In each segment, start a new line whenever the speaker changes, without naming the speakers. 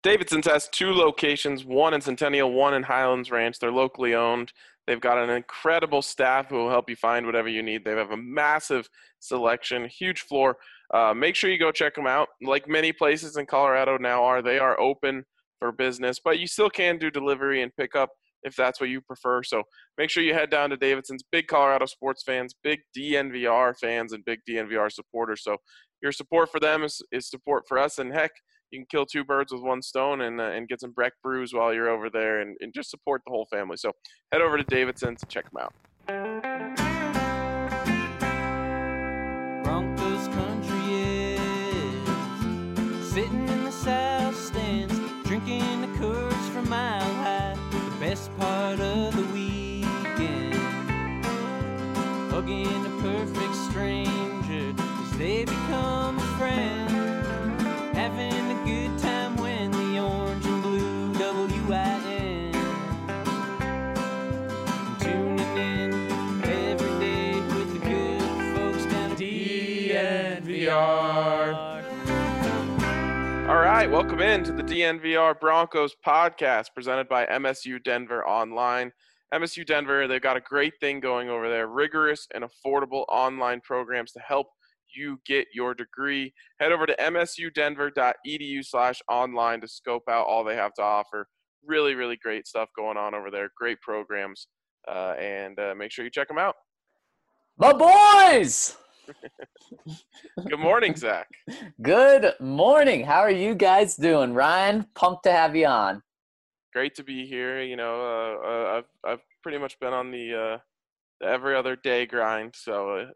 Davidson's has two locations, one in Centennial, one in Highlands Ranch. They're locally owned. They've got an incredible staff who will help you find whatever you need. They have a massive selection, huge floor. Make sure you go check them out. Like many places in Colorado now they are open for business, but you still can do delivery and pickup if that's what you prefer. So make sure you head down to Davidson's. Big Colorado sports fans, big DNVR fans, and big DNVR supporters. So your support for them is support for us. And heck, you can kill two birds with one stone and get some Breck brews while you're over there and just support the whole family. So head over to Davidson's and check them out.
Broncos country is sitting in the south stands, drinking the Coors from Mile High. The best part of the weekend, hugging a perfect stranger as they become a friend. Having a good time when the orange and blue WIN. Tuning in every day with the good folks down at DNVR.
All right, welcome in to the DNVR Broncos podcast presented by MSU Denver Online. MSU Denver, they've got a great thing going over there, rigorous and affordable online programs to help you get your degree. Head over to msudenver.edu/online to scope out all they have to offer. Really, really great stuff going on over there. Great programs, and make sure you check them out.
My boys!
Good morning, Zach.
Good morning. How are you guys doing? Ryan, pumped to have you on.
Great to be here. You know, I've pretty much been on the every other day grind, so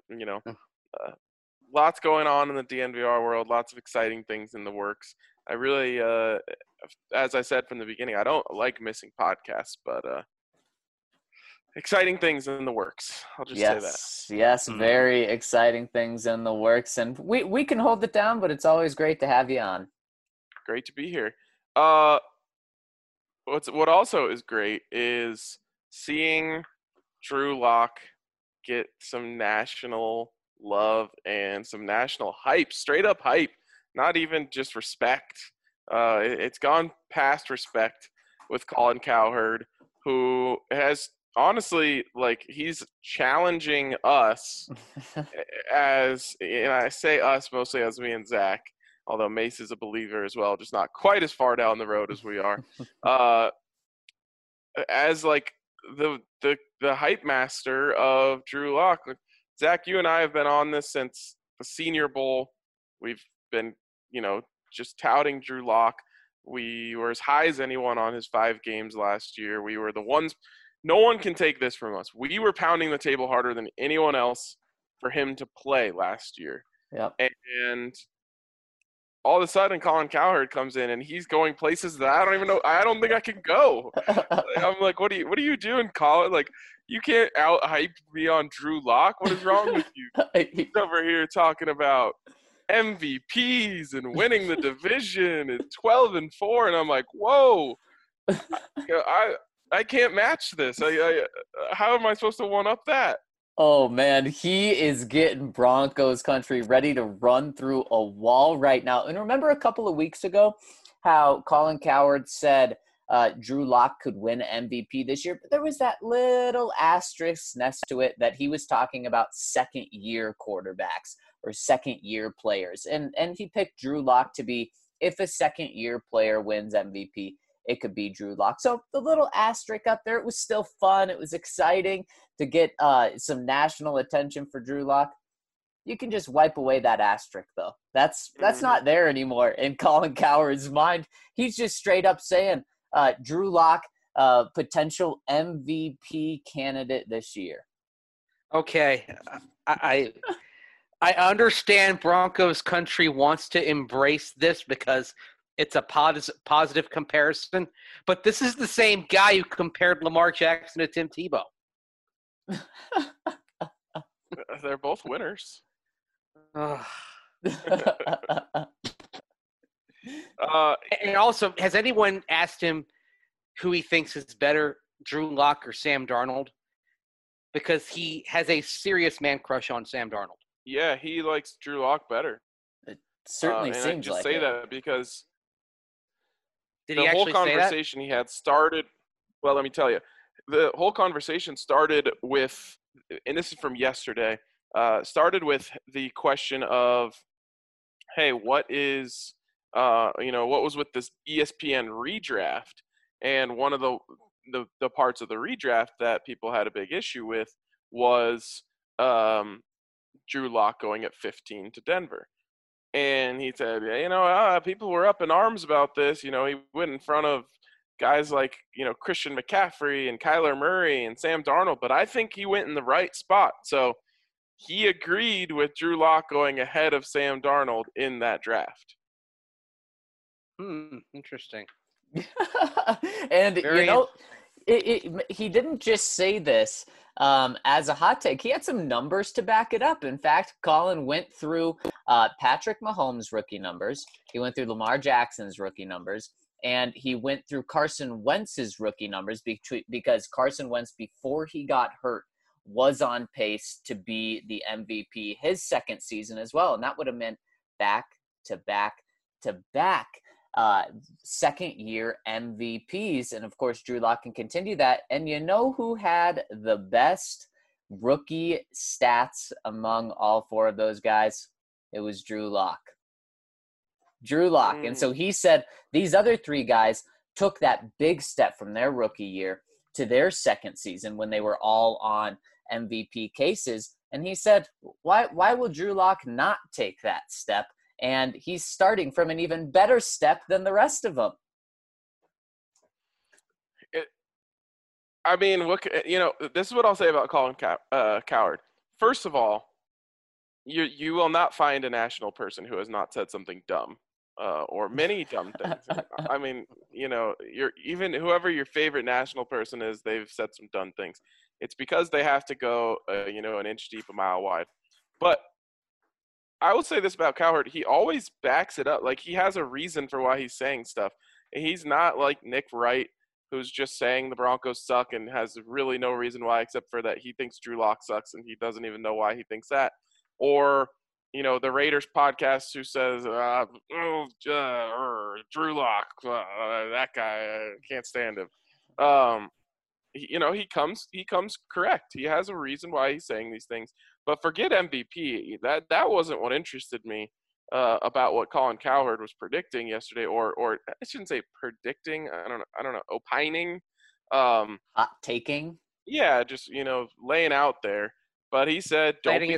lots going on in the DNVR world, lots of exciting things in the works. I really, as I said from the beginning, I don't like missing podcasts, but exciting things in the works. I'll just say that.
Yes, very exciting things in the works. And we can hold it down, but it's always great to have you on.
Great to be here. What also is great is seeing Drew Lock get some national love and some national hype, straight up hype, not even just respect. It's gone past respect with Colin Cowherd, who has honestly, he's challenging us as, and I say us mostly as me and Zach, although Mace is a believer as well, just not quite as far down the road as we are, as the hype master of Drew Lock. Zach, you and I have been on this since the Senior Bowl. We've been, just touting Drew Lock. We were as high as anyone on his 5 games last year. We were the ones – no one can take this from us. We were pounding the table harder than anyone else for him to play last year.
Yep.
And all of a sudden, Colin Cowherd comes in, and he's going places that I don't even know – I don't think I can go. I'm like, what are you doing, Colin? You can't out-hype me on Drew Lock. What is wrong with you? He's over here talking about MVPs and winning the division and 12-4, and I'm like, whoa, I can't match this. How am I supposed to one-up that?
Oh, man, he is getting Broncos country ready to run through a wall right now. And remember a couple of weeks ago how Colin Cowherd said Drew Lock could win MVP this year, but there was that little asterisk next to it that he was talking about second-year quarterbacks or second-year players. And he picked Drew Lock to be, if a second-year player wins MVP, it could be Drew Lock. So the little asterisk up there, it was still fun. It was exciting to get some national attention for Drew Lock. You can just wipe away that asterisk, though. That's not there anymore in Colin Cowherd's mind. He's just straight up saying, Drew Lock, potential MVP candidate this year.
Okay, I understand Broncos country wants to embrace this because it's a positive comparison, but this is the same guy who compared Lamar Jackson to Tim Tebow.
They're both winners.
And also, has anyone asked him who he thinks is better, Drew Lock or Sam Darnold? Because he has a serious man crush on Sam Darnold.
Yeah, he likes Drew Lock better.
It certainly seems like it.
I just say that because
Did
the
he
whole
actually say that?
conversation he had started. Well, let me tell you, the whole conversation started with, and this is from yesterday. Started with the question of, hey, what is, what was with this ESPN redraft? And one of the parts of the redraft that people had a big issue with was Drew Lock going at 15 to Denver. And he said, people were up in arms about this. He went in front of guys like, Christian McCaffrey and Kyler Murray and Sam Darnold, but I think he went in the right spot. So he agreed with Drew Lock going ahead of Sam Darnold in that draft.
Interesting.
And, he didn't just say this as a hot take. He had some numbers to back it up. In fact, Colin went through Patrick Mahomes' rookie numbers. He went through Lamar Jackson's rookie numbers. And he went through Carson Wentz's rookie numbers because Carson Wentz, before he got hurt, was on pace to be the MVP his second season as well. And that would have meant back-to-back second-year MVPs. And, of course, Drew Lock can continue that. And you know who had the best rookie stats among all four of those guys? It was Drew Lock. And so he said these other three guys took that big step from their rookie year to their second season when they were all on MVP cases. And he said, why will Drew Lock not take that step? And he's starting from an even better step than the rest of them.
This is what I'll say about Colin Cowherd. First of all, you will not find a national person who has not said something dumb. Or many dumb things. I mean, even whoever your favorite national person is, they've said some dumb things. It's because they have to go, an inch deep, a mile wide. But I will say this about Cowherd: he always backs it up. Like, he has a reason for why he's saying stuff. He's not like Nick Wright, who's just saying the Broncos suck and has really no reason why, except for that he thinks Drew Lock sucks and he doesn't even know why he thinks that. Or the Raiders podcast who says, Drew Lock, that guy, I can't stand him. He comes correct. He has a reason why he's saying these things. But forget MVP. That wasn't what interested me about what Colin Cowherd was predicting yesterday, or I shouldn't say predicting. I don't know, opining.
Hot taking.
Yeah, just laying out there. But he said,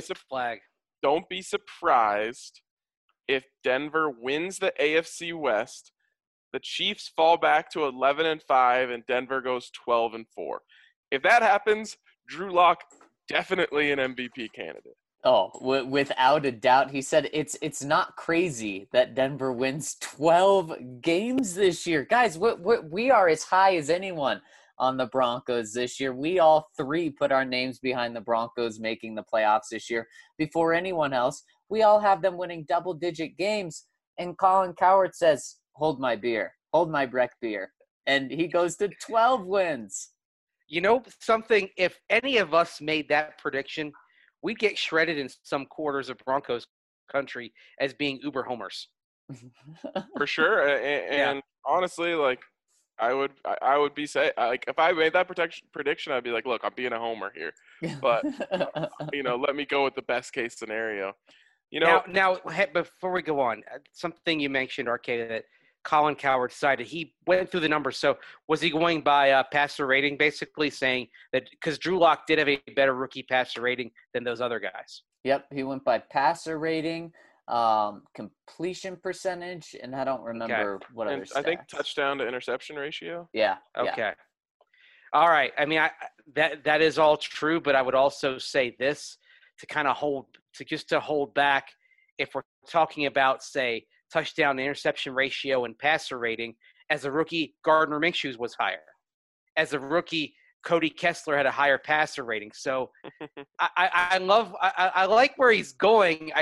don't be surprised if Denver wins the AFC West, the Chiefs fall back to 11-5, and Denver goes 12-4. If that happens, Drew Lock definitely an MVP candidate.
Oh, without a doubt. He said it's not crazy that Denver wins 12 games this year. Guys, we are as high as anyone on the Broncos this year. We all three put our names behind the Broncos making the playoffs this year before anyone else. We all have them winning double-digit games. And Colin Cowherd says, hold my Breck beer. And he goes to 12 wins.
You know something? If any of us made that prediction, we'd get shredded in some quarters of Broncos country as being uber homers.
For sure. And honestly, like, I would be say, like, if I made that prediction, I'd be like, look, I'm being a homer here, but let me go with the best case scenario.
Now, before we go on, something you mentioned, Arcade, that Colin Cowherd decided he went through the numbers. So was he going by passer rating, basically saying that because Drew Lock did have a better rookie passer rating than those other guys?
Yep, he went by passer rating, completion percentage, and I don't remember what other stats.
I think touchdown to interception ratio.
Yeah.
Okay.
Yeah.
All right. I mean, that is all true, but I would also say this to hold back if we're talking about, say, touchdown to interception ratio and passer rating. As a rookie, Gardner Minshew was higher. As a rookie, Cody Kessler had a higher passer rating. So I like where he's going.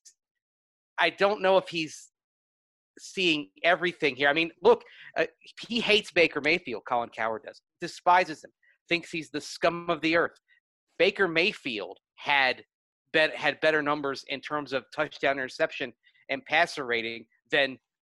I don't know if he's seeing everything here. I mean, look, he hates Baker Mayfield, Colin Cowherd does. Despises him. Thinks he's the scum of the earth. Baker Mayfield had better numbers in terms of touchdown interception and passer rating than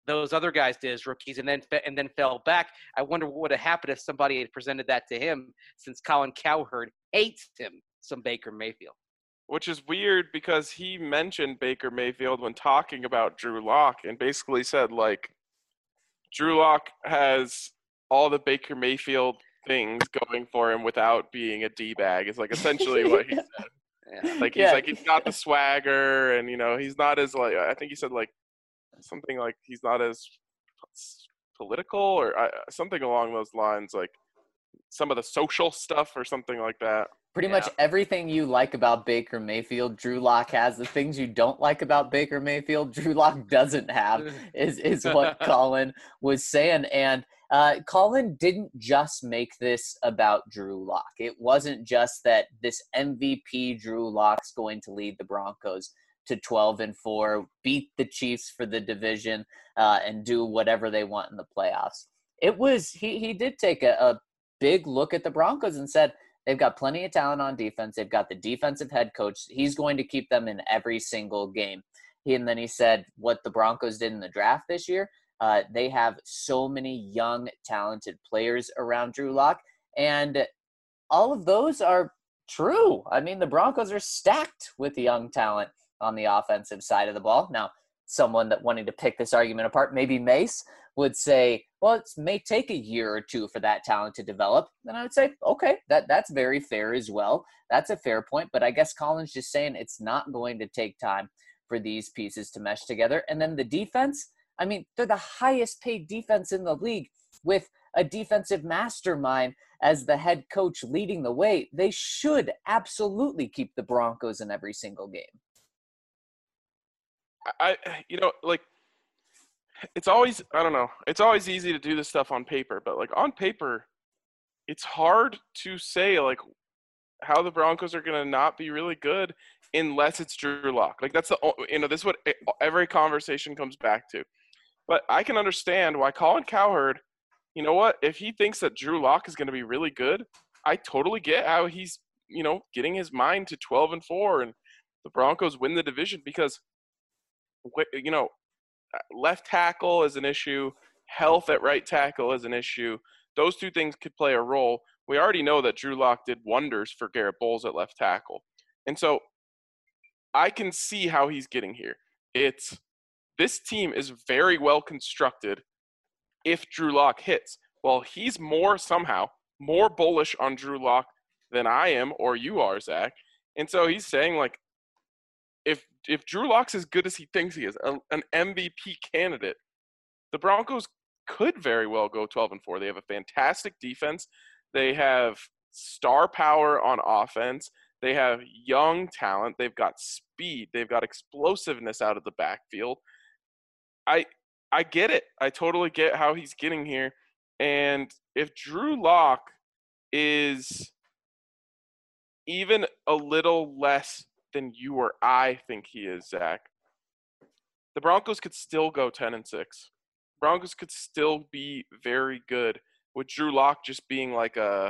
those other guys did as rookies, and then fell back. I wonder what would have happened if somebody had presented that to him, since Colin Cowherd hates him some Baker Mayfield.
Which is weird because he mentioned Baker Mayfield when talking about Drew Lock and basically said, like, Drew Lock has all the Baker Mayfield things going for him without being a D-bag. It's like essentially what he said.
Yeah.
Like he's got the swagger, and he's not as, like, I think he said like something like he's not as political or something along those lines, like some of the social stuff or something like that.
Pretty much everything you like about Baker Mayfield, Drew Lock has. The things you don't like about Baker Mayfield, Drew Lock doesn't have, is what Colin was saying. And Colin didn't just make this about Drew Lock. It wasn't just that this MVP Drew Lock's going to lead the Broncos to 12-4, beat the Chiefs for the division, and do whatever they want in the playoffs. It was he did take a big look at the Broncos and said, they've got plenty of talent on defense. They've got the defensive head coach. He's going to keep them in every single game. And then he said what the Broncos did in the draft this year, they have so many young, talented players around Drew Lock. And all of those are true. I mean, the Broncos are stacked with young talent on the offensive side of the ball. Now, someone that wanting to pick this argument apart, maybe Mace, would say, well, it may take a year or two for that talent to develop. Then I would say, okay, that's very fair as well. That's a fair point. But I guess Colin's just saying it's not going to take time for these pieces to mesh together. And then the defense, I mean, they're the highest paid defense in the league with a defensive mastermind as the head coach leading the way. They should absolutely keep the Broncos in every single game.
It's always, I don't know, it's always easy to do this stuff on paper, but like on paper, it's hard to say like how the Broncos are going to not be really good unless it's Drew Lock. Like that's this is what every conversation comes back to. But I can understand why Colin Cowherd, if he thinks that Drew Lock is going to be really good, I totally get how he's, getting his mind to 12-4 and the Broncos win the division because, left tackle is an issue. Health at right tackle is an issue. Those two things could play a role. We already know that Drew Lock did wonders for Garrett Bowles at left tackle. And so I can see how he's getting here. This team is very well constructed if Drew Lock hits. Well, he's somehow more bullish on Drew Lock than I am or you are, Zach. And so he's saying, like, if Drew Lock's as good as he thinks he is, an MVP candidate, the Broncos could very well go 12-4. They have a fantastic defense. They have star power on offense. They have young talent. They've got speed. They've got explosiveness out of the backfield. I get it. I totally get how he's getting here. And if Drew Lock is even a little less than you or I think he is, Zach, the Broncos could still go 10-6. Broncos could still be very good with Drew Lock just being like the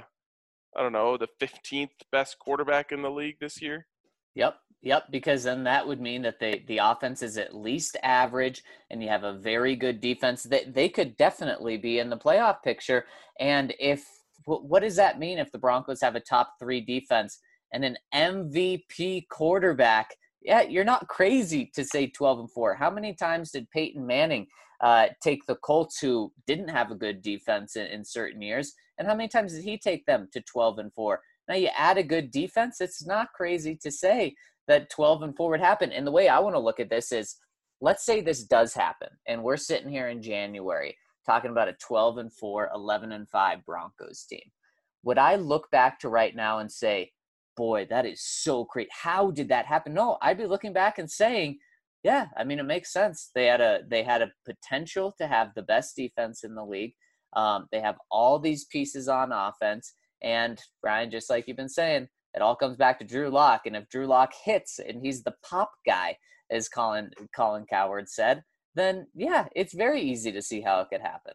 15th best quarterback in the league this year.
Yep, because then that would mean that the offense is at least average and you have a very good defense. They could definitely be in the playoff picture. And what does that mean if the Broncos have a top 3 defense and an MVP quarterback? Yeah, you're not crazy to say 12-4. How many times did Peyton Manning take the Colts, who didn't have a good defense in certain years, and how many times did he take them to 12-4? Now you add a good defense, it's not crazy to say that 12-4 would happen. And the way I want to look at this is, let's say this does happen, and we're sitting here in January talking about a 12-4, 11-5 Broncos team. Would I look back to right now and say, boy, that is so great, how did that happen? No, I'd be looking back and saying, yeah, I mean, it makes sense. They had a potential to have the best defense in the league. They have all these pieces on offense. And Brian, just like you've been saying, it all comes back to Drew Lock. And if Drew Lock hits and he's the pop guy, as Colin Cowherd said, then yeah, it's very easy to see how it could happen.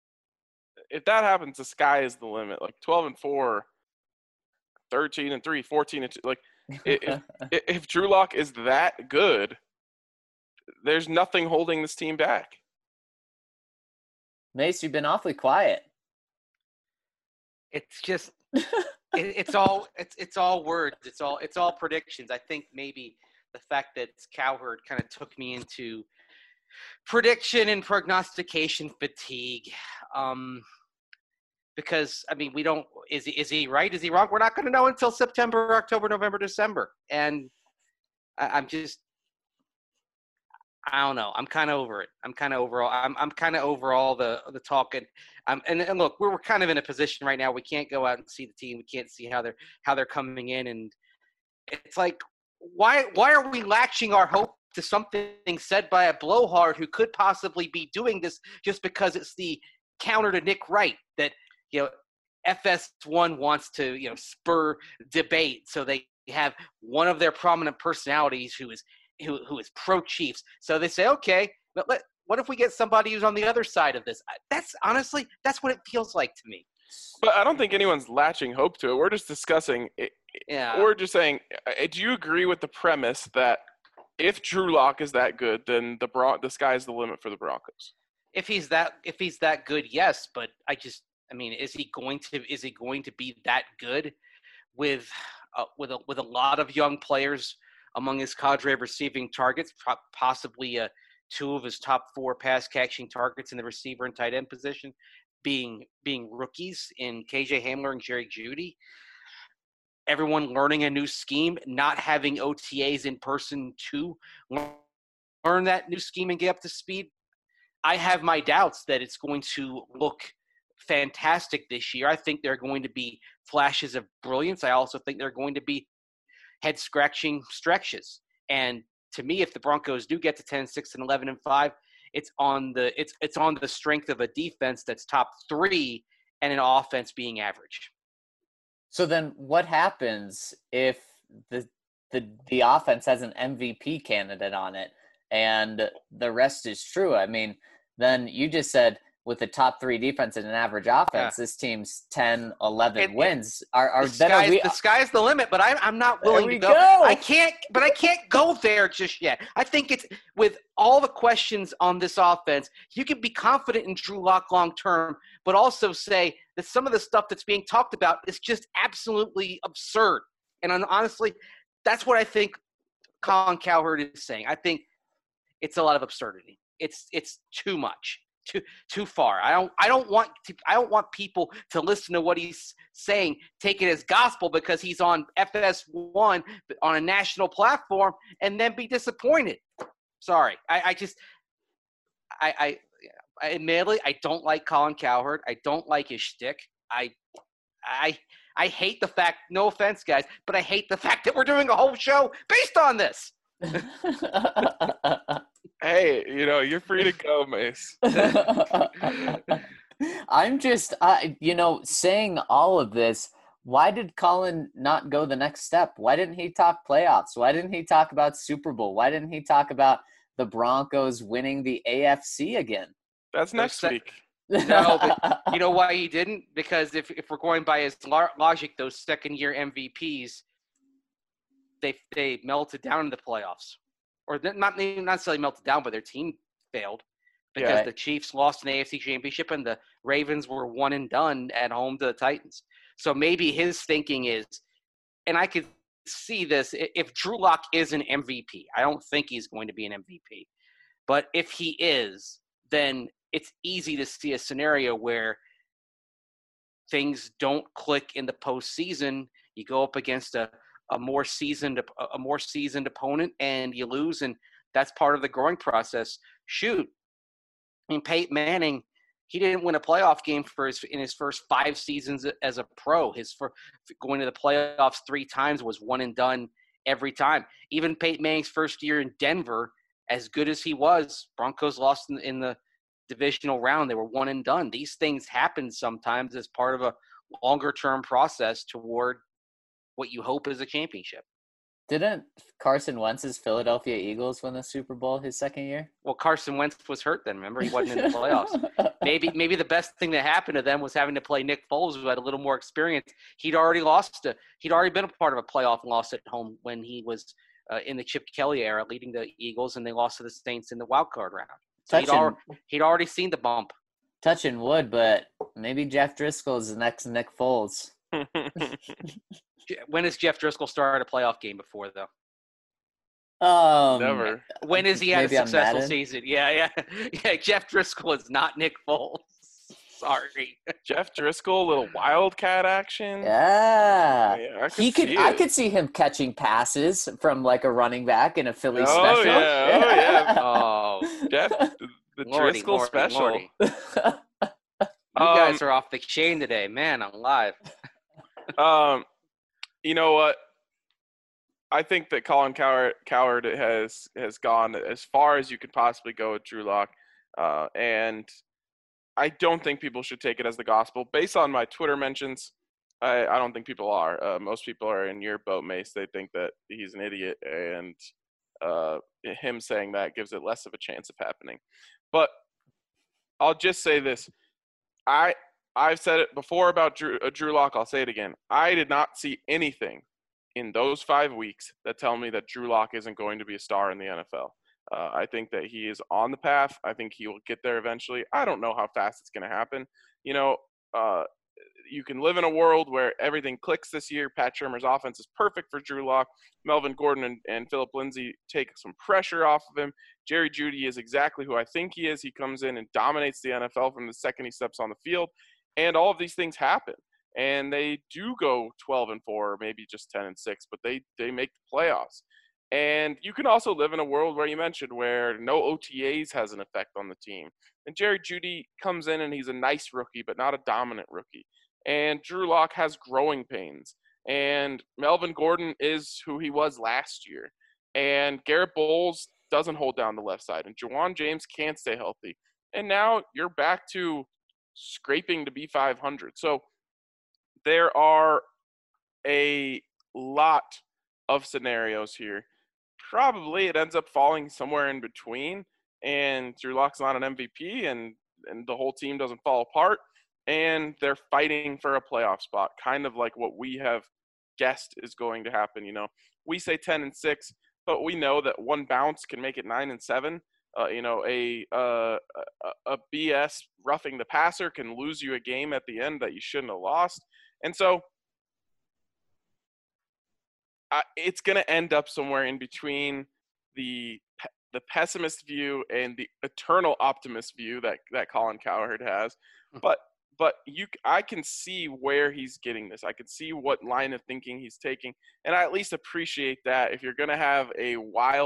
If that happens, the sky is the limit. Like 12-4, 13-3, 14-2. Like if Drew Lock is that good, there's nothing holding this team back.
Mace, you've been awfully quiet.
It's just it's all words. It's all predictions. I think maybe the fact that Cowherd kind of took me into prediction and prognostication fatigue. Because I mean, we don't. Is he right? Is he wrong? We're not going to know until September, October, November, December. And I don't know. I'm kind of over it. I'm kind of over all the talk. And look, we're kind of in a position right now. We can't go out and see the team. We can't see how they're coming in. And it's like, why are we latching our hope to something said by a blowhard who could possibly be doing this just because it's the counter to Nick Wright that, FS1 wants to, spur debate. So they have one of their prominent personalities who is pro Chiefs. So they say, okay, but what if we get somebody who's on the other side of this? That's what it feels like to me.
But I don't think anyone's latching hope to it. We're just discussing it.
Yeah.
We're just saying, do you agree with the premise that if Drew Lock is that good, then the sky's the limit for the Broncos?
If he's that good, yes. But is he going to be that good with a lot of young players among his cadre of receiving targets, possibly two of his top 4 pass catching targets in the receiver and tight end position being rookies in KJ Hamler and Jerry Jeudy? Everyone learning a new scheme, not having OTAs in person to learn that new scheme and get up to speed. I have my doubts that it's going to look fantastic this year. I think there are going to be flashes of brilliance. I also think there are going to be head-scratching stretches. And to me, if the Broncos do get to 10-6 and 11-5, it's on the strength of a defense that's top 3 and an offense being average.
So then what happens if the offense has an MVP candidate on it and the rest is true? I mean, then you just said with the top 3 defense and an average offense, this team's 10, 11 wins. The
sky's the limit, but I'm not willing to go. I can't go there just yet. I think it's with all the questions on this offense, you can be confident in Drew Lock long term, but also say that some of the stuff that's being talked about is just absolutely absurd. And honestly, that's what I think Colin Cowherd is saying. I think it's a lot of absurdity. It's too much. Too far. I don't want people to listen to what he's saying, take it as gospel because he's on FS1 on a national platform, and then be disappointed. Sorry, I admittedly I don't like Colin Cowherd. I don't like his shtick. I hate the fact. No offense, guys, but I hate the fact that we're doing a whole show based on this.
Hey, you're free to go, Mace.
I'm just, saying all of this. Why did Colin not go the next step? Why didn't he talk playoffs? Why didn't he talk about Super Bowl? Why didn't he talk about the Broncos winning the AFC again?
That's next week.
No, but you know why he didn't? Because if we're going by his logic, those second-year MVPs, they melted down in the playoffs. Or not necessarily melted down, but their team failed because the Chiefs lost an AFC championship and the Ravens were one and done at home to the Titans. So maybe his thinking is, and I could see this, if Drew Lock is an MVP, I don't think he's going to be an MVP, but if he is, then it's easy to see a scenario where things don't click in the postseason. You go up against a more seasoned opponent and you lose, and that's part of the growing process. Shoot, I mean, Peyton Manning, he didn't win a playoff game in his first 5 seasons as a pro. Going to the playoffs 3 times was one and done every time. Even Peyton Manning's first year in Denver, as good as he was, Broncos lost in the divisional round. They were one and done. These things happen sometimes as part of a longer term process toward what you hope is a championship.
Didn't Carson Wentz's Philadelphia Eagles win the Super Bowl his second year?
Well, Carson Wentz was hurt then. Remember, he wasn't in the playoffs. Maybe the best thing that happened to them was having to play Nick Foles, who had a little more experience. He'd already been a part of a playoff loss at home when he was in the Chip Kelly era, leading the Eagles, and they lost to the Saints in the wild card round. So he'd already seen the bump.
touching wood, but maybe Jeff Driscoll is the next Nick Foles.
When has Jeff Driscoll started a playoff game before, though?
Never.
When has he had a
Maybe on
successful
Madden?
season? Yeah. Jeff Driscoll is not Nick Foles. Sorry.
Jeff Driscoll, little wildcat action.
Yeah.
Yeah, I
He could
see
I
it.
could see him catching passes from like a running back in a Philly
Oh,
special.
yeah.
Oh,
Jeff, the
Lordy,
Driscoll
Lordy,
special.
Lordy. You guys are off the chain today, man. I'm live.
You know what? I think that Colin Cowherd has gone as far as you could possibly go with Drew Lock, and I don't think people should take it as the gospel. Based on my Twitter mentions, I don't think people are. Most people are in your boat, Mace. They think that he's an idiot, and him saying that gives it less of a chance of happening. But I'll just say this: I've said it before about Drew Lock. I'll say it again. I did not see anything in those 5 weeks that tell me that Drew Lock isn't going to be a star in the NFL. I think that he is on the path. I think he will get there eventually. I don't know how fast it's going to happen. You know, you can live in a world where everything clicks this year. Pat Shermer's offense is perfect for Drew Lock. Melvin Gordon and Philip Lindsay take some pressure off of him. Jerry Jeudy is exactly who I think he is. He comes in and dominates the NFL from the second he steps on the field. And all of these things happen. And they do go 12-4, or maybe just 10-6, but they make the playoffs. And you can also live in a world where you mentioned where no OTAs has an effect on the team. And Jerry Jeudy comes in and he's a nice rookie, but not a dominant rookie. And Drew Lock has growing pains. And Melvin Gordon is who he was last year. And Garrett Bowles doesn't hold down the left side. And Juwan James can't stay healthy. And now you're back to scraping to be 500. So there are a lot of scenarios here. Probably it ends up falling somewhere in between, and Drew Lock's not an MVP, and the whole team doesn't fall apart, and they're fighting for a playoff spot, kind of like what we have guessed is going to happen. You know, we say 10-6, but we know that one bounce can make it 9-7. You know, a BS roughing the passer can lose you a game at the end that you shouldn't have lost. And so it's going to end up somewhere in between the pessimist view and the eternal optimist view that Colin Cowherd has. But I can see where he's getting this. I can see what line of thinking he's taking, and I at least appreciate that. If you're going to have a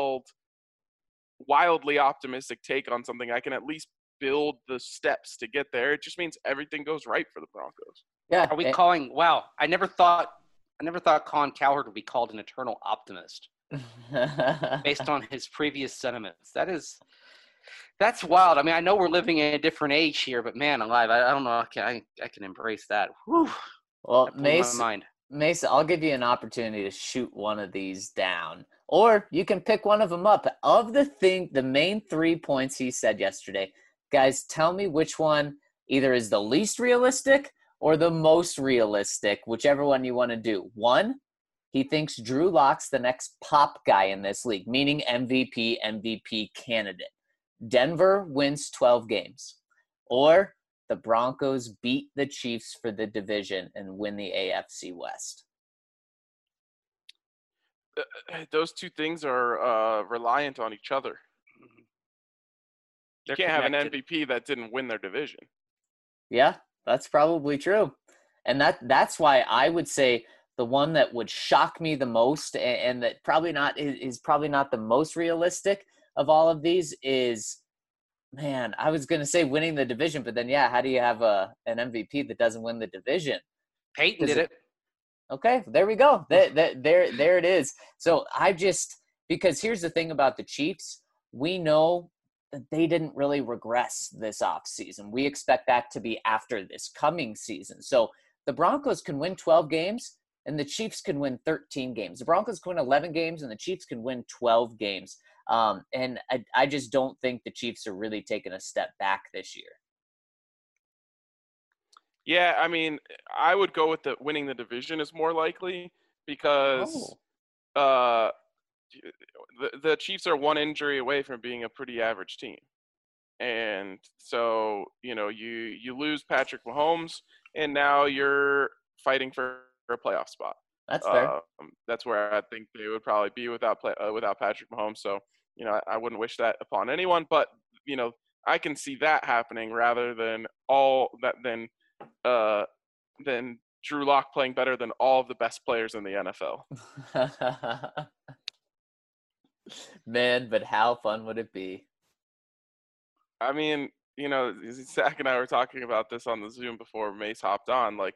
wildly optimistic take on something, I can at least build the steps to get there. It just means everything goes right for the Broncos.
Yeah.
Are we calling? Wow, I never thought Colin Cowherd would be called an eternal optimist based on his previous sentiments. That's wild. I mean, I know we're living in a different age here, but man, alive, I don't know. I can embrace that. Whew.
Well,
Mason,
I'll give you an opportunity to shoot one of these down, or you can pick one of them up. Of the main 3 points he said yesterday, guys, tell me which one either is the least realistic or the most realistic, whichever one you want to do. 1, he thinks Drew Lock's the next pop guy in this league, meaning MVP candidate. Denver wins 12 games. Or the Broncos beat the Chiefs for the division and win the AFC West.
Those two things are reliant on each other. You can't have an MVP that didn't win their division.
Yeah, that's probably true. And that's why I would say the one that would shock me the most, and that probably not is probably not the most realistic of all of these, is, man, I was going to say winning the division, but then, yeah, how do you have an MVP that doesn't win the division?
Peyton did it.
Okay, there we go. There it is. So because here's the thing about the Chiefs, we know that they didn't really regress this offseason. We expect that to be after this coming season. So the Broncos can win 12 games and the Chiefs can win 13 games. The Broncos can win 11 games and the Chiefs can win 12 games. And I just don't think the Chiefs are really taking a step back this year.
Yeah, I mean, I would go with winning the division is more likely because the Chiefs are one injury away from being a pretty average team. And so, you lose Patrick Mahomes, and now you're fighting for a playoff spot.
That's fair.
That's where I think they would probably be without Patrick Mahomes. So, I wouldn't wish that upon anyone, but I can see that happening rather than than Drew Lock playing better than all of the best players in the NFL.
Man, but how fun would it be?
I mean, Zach and I were talking about this on the Zoom before Mace hopped on. Like,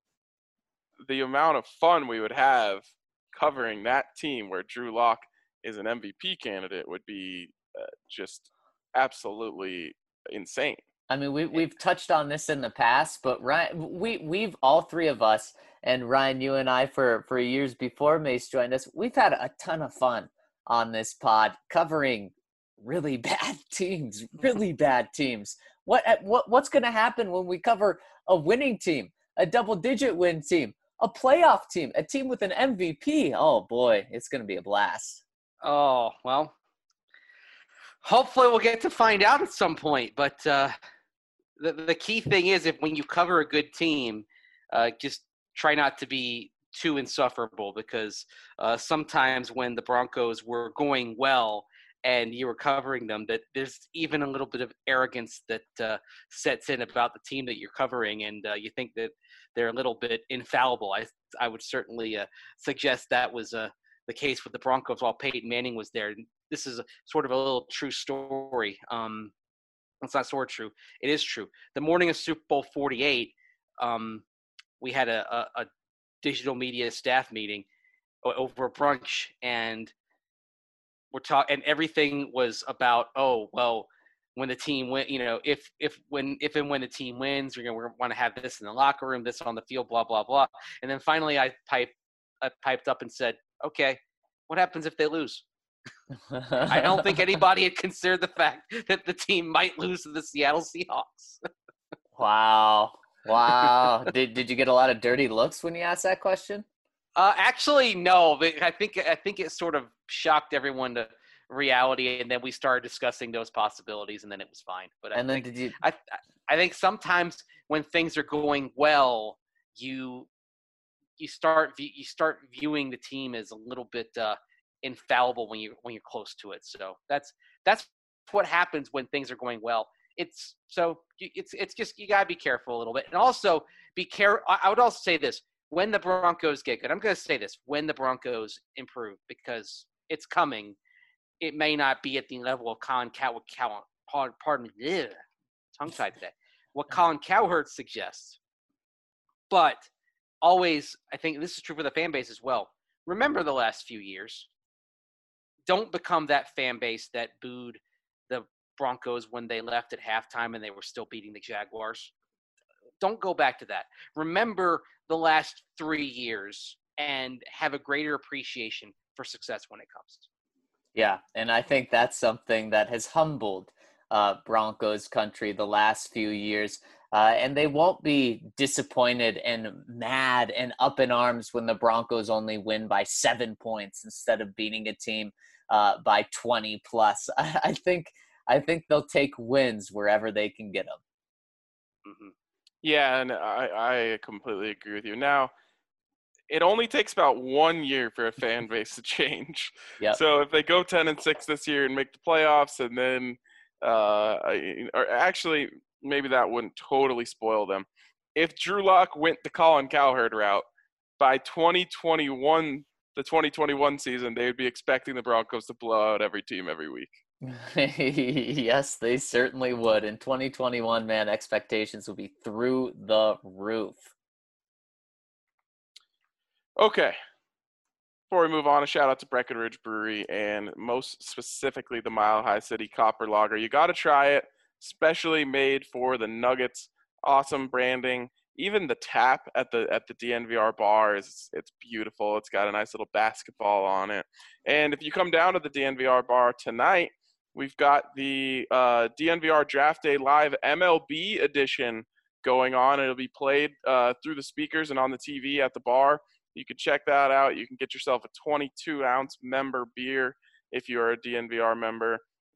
the amount of fun we would have covering that team where Drew Lock is an MVP candidate would be just absolutely insane.
I mean, we've touched on this in the past, but Ryan, we've all three of us, and Ryan, you and I, for years before Mace joined us, we've had a ton of fun on this pod covering really bad teams, really bad teams. What's going to happen when we cover a winning team, a double-digit win team, a playoff team, a team with an MVP? Oh boy, it's going to be a blast.
Oh, well, hopefully we'll get to find out at some point. But the key thing is, when you cover a good team, just try not to be too insufferable, because sometimes when the Broncos were going well and you were covering them, that there's even a little bit of arrogance that sets in about the team that you're covering, and you think that they're a little bit infallible. I would certainly suggest that was the case with the Broncos while Peyton Manning was there. This is sort of a little true story. It's not sort of true. It is true. The morning of Super Bowl 48, we had a digital media staff meeting over a brunch, and we're talking, and everything was about, when the team win, if and when the team wins, we're going to want to have this in the locker room, this on the field, blah blah blah. And then finally, I piped up and said, "Okay, what happens if they lose?" I don't think anybody had considered the fact that the team might lose to the Seattle Seahawks.
Wow. Did you get a lot of dirty looks when you asked that question?
Actually, no. But I think it sort of shocked everyone to reality, and then we started discussing those possibilities, and then it was fine. But I think sometimes when things are going well, you start viewing the team as a little bit infallible when you're close to it. So that's what happens when things are going well. It's just, you gotta be careful a little bit, and also be careful. I would also say this: when the Broncos get good, I'm going to say this: when the Broncos improve, because it's coming, it may not be at the level of Colin Cowherd. Pardon me, tongue-tied today. What Colin Cowherd suggests, but always, I think this is true for the fan base as well. Remember the last few years. Don't become that fan base that booed the Broncos when they left at halftime and they were still beating the Jaguars. Don't go back to that. Remember the last 3 years and have a greater appreciation for success when it comes.
Yeah, and I think that's something that has humbled Broncos country the last few years. And they won't be disappointed and mad and up in arms when the Broncos only win by 7 points instead of beating a team by 20 plus. I think they'll take wins wherever they can get them.
Mm-hmm. Yeah, and I completely agree with you. Now, it only takes about 1 year for a fan base to change.
Yep.
So if they go 10-6 this year and make the playoffs, and then, or actually, maybe that wouldn't totally spoil them. If Drew Lock went the Colin Cowherd route, by 2021, the 2021 season, they would be expecting the Broncos to blow out every team every week.
Yes, they certainly would. In 2021, man, expectations will be through the roof.
Okay. Before we move on, a shout out to Breckenridge Brewery, and most specifically the Mile High City Copper Lager. You got to try it, specially made for the Nuggets. Awesome branding. Even the tap at the DNVR bar it's beautiful. It's got a nice little basketball on it. And if you come down to the DNVR bar tonight, we've got the DNVR Draft Day Live MLB edition going on. It'll be played through the speakers and on the TV at the bar. You can check that out. You can get yourself a 22-ounce member beer if you're a DNVR member.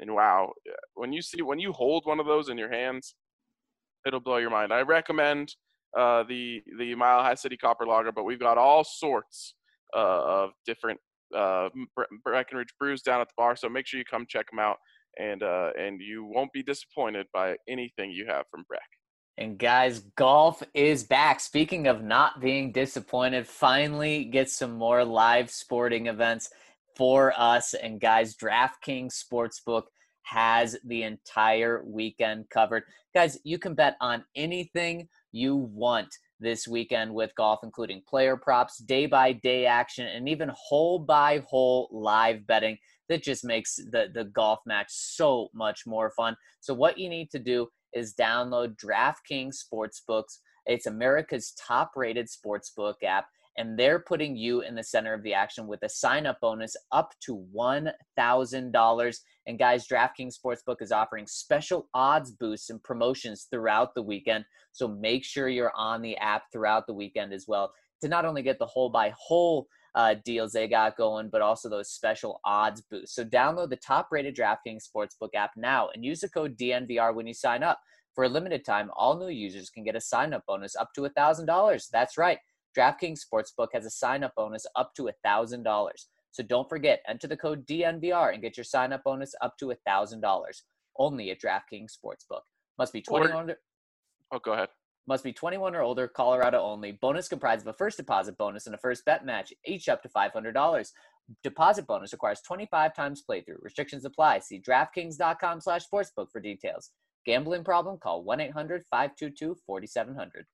And wow, when you hold one of those in your hands, it'll blow your mind. I recommend the Mile High City Copper Lager, but we've got all sorts of different Breckenridge brews down at the bar. So make sure you come check them out, and you won't be disappointed by anything you have from Breck.
And guys, golf is back. Speaking of not being disappointed, finally get some more live sporting events for us. And guys, DraftKings Sportsbook has the entire weekend covered. Guys, you can bet on anything you want this weekend with golf, including player props, day-by-day action, and even hole-by-hole live betting. That just makes the golf match so much more fun. So what you need to do is download DraftKings Sportsbooks. It's America's top-rated sportsbook app, and they're putting you in the center of the action with a sign-up bonus up to $1,000. And guys, DraftKings Sportsbook is offering special odds boosts and promotions throughout the weekend, so make sure you're on the app throughout the weekend as well to not only get the hole-by-hole deals they got going, but also those special odds boosts. So download the top-rated DraftKings Sportsbook app now and use the code DNVR when you sign up. For a limited time, all new users can get a sign-up bonus up to $1,000. That's right. DraftKings Sportsbook has a sign-up bonus up to $1,000. So don't forget, enter the code DNVR and get your sign-up bonus up to $1,000. Only at DraftKings Sportsbook. Must be 21.
Oh, go ahead.
Must be 21 or older, Colorado only. Bonus comprised of a first deposit bonus and a first bet match, each up to $500. Deposit bonus requires 25 times playthrough. Restrictions apply. See DraftKings.com/sportsbook for details. Gambling problem? Call 1-800-522-4700.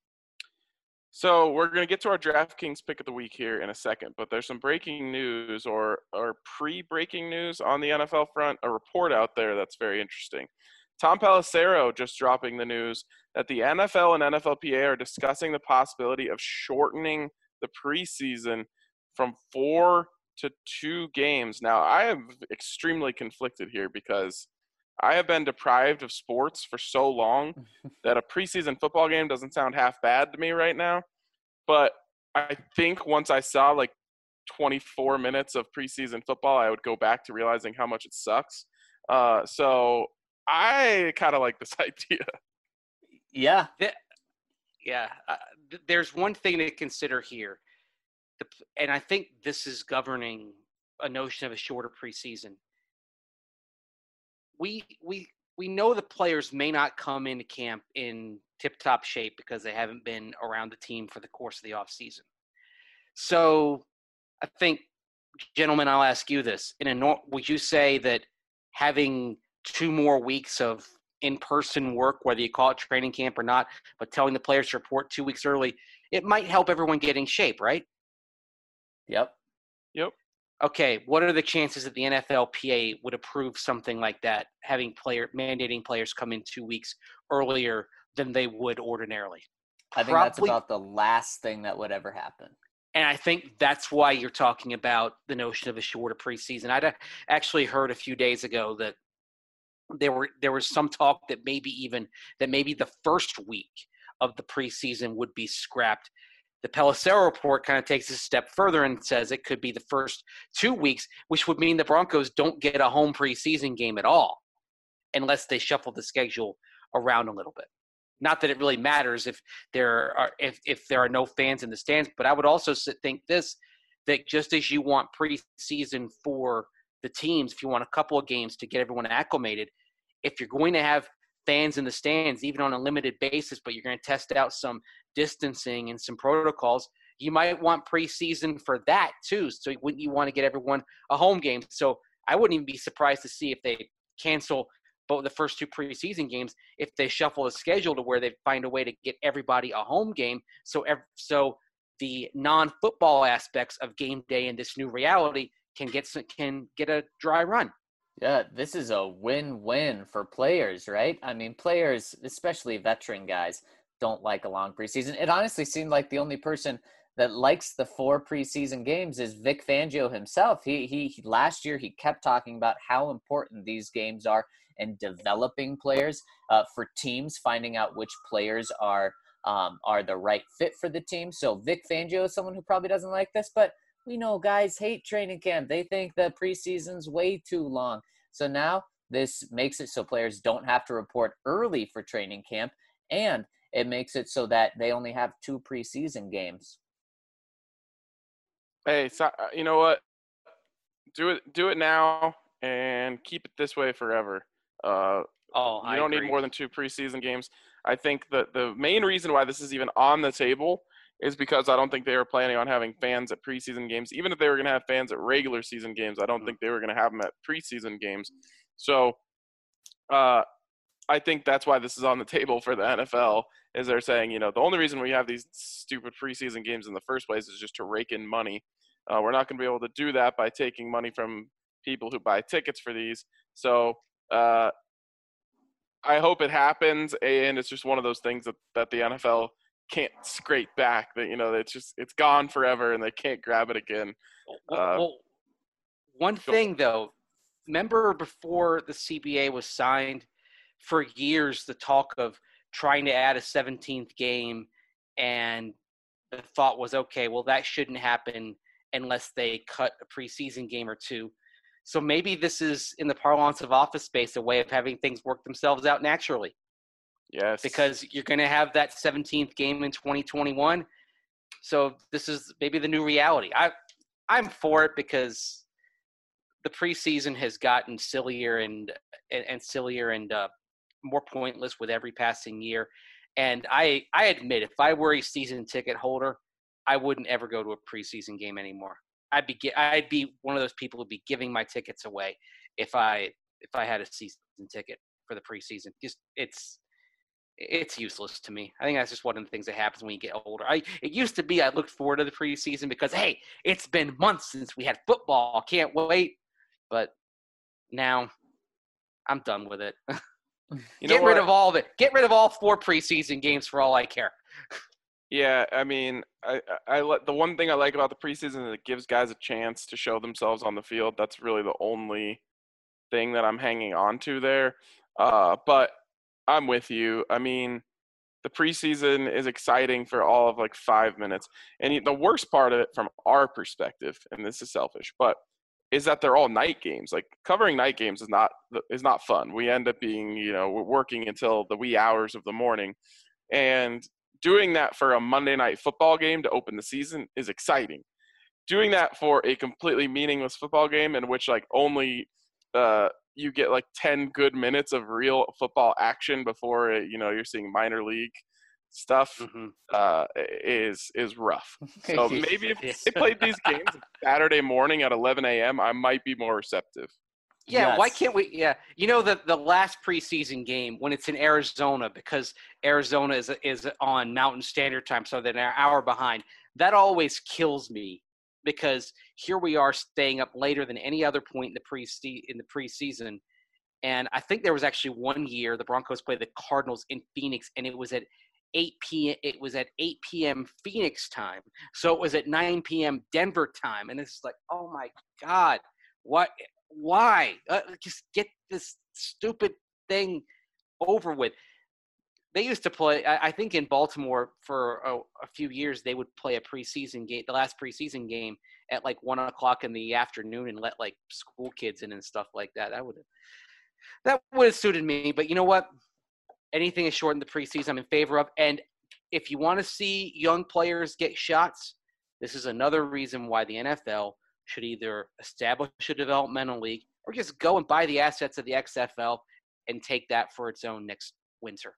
So we're going to get to our DraftKings pick of the week here in a second, but there's some breaking news or pre-breaking news on the NFL front, a report out there that's very interesting. Tom Pelissero just dropping the news that the NFL and NFLPA are discussing the possibility of shortening the preseason from 4 to 2 games. Now, I am extremely conflicted here because I have been deprived of sports for so long that a preseason football game doesn't sound half bad to me right now. But I think once I saw like 24 minutes of preseason football, I would go back to realizing how much it sucks. So I kind of like this idea.
Yeah.
There's one thing to consider here. And I think this is governing a notion of a shorter preseason. We know the players may not come into camp in tip-top shape because they haven't been around the team for the course of the offseason. So I think, gentlemen, I'll ask you this. Would you say that having 2 more weeks of in-person work, whether you call it training camp or not, but telling the players to report 2 weeks early, it might help everyone get in shape, right?
Yep.
Okay, what are the chances that the NFLPA would approve something like that, mandating players come in 2 weeks earlier than they would ordinarily?
I think that's about the last thing that would ever happen.
And I think that's why you're talking about the notion of a shorter preseason. I'd actually heard a few days ago that there was some talk that maybe the first week of the preseason would be scrapped. The Pelissero report kind of takes a step further and says it could be the first 2 weeks, which would mean the Broncos don't get a home preseason game at all unless they shuffle the schedule around a little bit. Not that it really matters if there are no fans in the stands, but I would also think that just as you want preseason for the teams, if you want a couple of games to get everyone acclimated, if you're going to have fans in the stands, even on a limited basis, but you're going to test out some distancing and some protocols, you might want preseason for that too. So wouldn't you want to get everyone a home game? So I wouldn't even be surprised to see if they cancel both the first 2 preseason games, if they shuffle the schedule to where they find a way to get everybody a home game. So the non-football aspects of game day in this new reality can get a dry run.
Yeah, this is a win-win for players, right? I mean, players, especially veteran guys, don't like a long preseason. It honestly seemed like the only person that likes the 4 preseason games is Vic Fangio himself. He last year, he kept talking about how important these games are in developing players for teams, finding out which players are the right fit for the team. So Vic Fangio is someone who probably doesn't like this, but we know guys hate training camp. They think the preseason's way too long. So now This makes it so players don't have to report early for training camp, and it makes it so that they only have 2 preseason games.
Hey, so, you know what? Do it now and keep it this way forever. You don't need more than 2 preseason games. I think that the main reason why this is even on the table is because I don't think they were planning on having fans at preseason games. Even if they were going to have fans at regular season games, I don't think they were going to have them at preseason games. So I think that's why this is on the table for the NFL, is they're saying, the only reason we have these stupid preseason games in the first place is just to rake in money. We're not going to be able to do that by taking money from people who buy tickets for these. So I hope it happens, and it's just one of those things that the NFL can't scrape back. That it's gone forever, and they can't grab it again.
One thing though, remember before the CBA was signed, for years the talk of trying to add a 17th game, and the thought was, okay, well that shouldn't happen unless they cut a preseason game or 2. So maybe this is, in the parlance of Office Space, a way of having things work themselves out naturally.
Yes.
Because you're going to have that 17th game in 2021. So this is maybe the new reality. I'm for it because the preseason has gotten sillier and sillier and more pointless with every passing year. And I admit, if I were a season ticket holder, I wouldn't ever go to a preseason game anymore. I'd be one of those people who'd be giving my tickets away if I had a season ticket for the preseason. Just it's useless to me. I think that's just one of the things that happens when you get older. It used to be I looked forward to the preseason because, hey, it's been months since we had football. Can't wait. But now I'm done with it. Get rid of all of it. Get rid of all 4 preseason games for all I care.
Yeah, I mean, the one thing I like about the preseason is it gives guys a chance to show themselves on the field. That's really the only thing that I'm hanging on to there. But I'm with you. I mean, the preseason is exciting for all of like 5 minutes. And the worst part of it from our perspective, and this is selfish, but is that they're all night games. Like, covering night games is not fun. We end up being, we're working until the wee hours of the morning. And doing that for a Monday night football game to open the season is exciting. Doing that for a completely meaningless football game in which like only you get like 10 good minutes of real football action before you're seeing minor league stuff is rough. So maybe if they played these games Saturday morning at 11 a.m., I might be more receptive.
Yeah,
Yes.
Why can't we? Yeah, the last preseason game when it's in Arizona, because Arizona is on Mountain Standard Time, so they're an hour behind. That always kills me because here we are staying up later than any other point in the preseason. And I think there was actually one year the Broncos played the Cardinals in Phoenix, and it was at 8 p.m. It was at 8 p.m. Phoenix time, so it was at 9 p.m. Denver time, and it's like, oh my God, what? Why? Just get this stupid thing over with. They used to play, I think in Baltimore for a few years, they would play a preseason game, the last preseason game at like 1 o'clock in the afternoon and let like school kids in and stuff like that. That would have suited me. But you know what? Anything is short in the preseason, I'm in favor of. And if you want to see young players get shots, this is another reason why the NFL should either establish a developmental league or just go and buy the assets of the XFL and take that for its own next winter.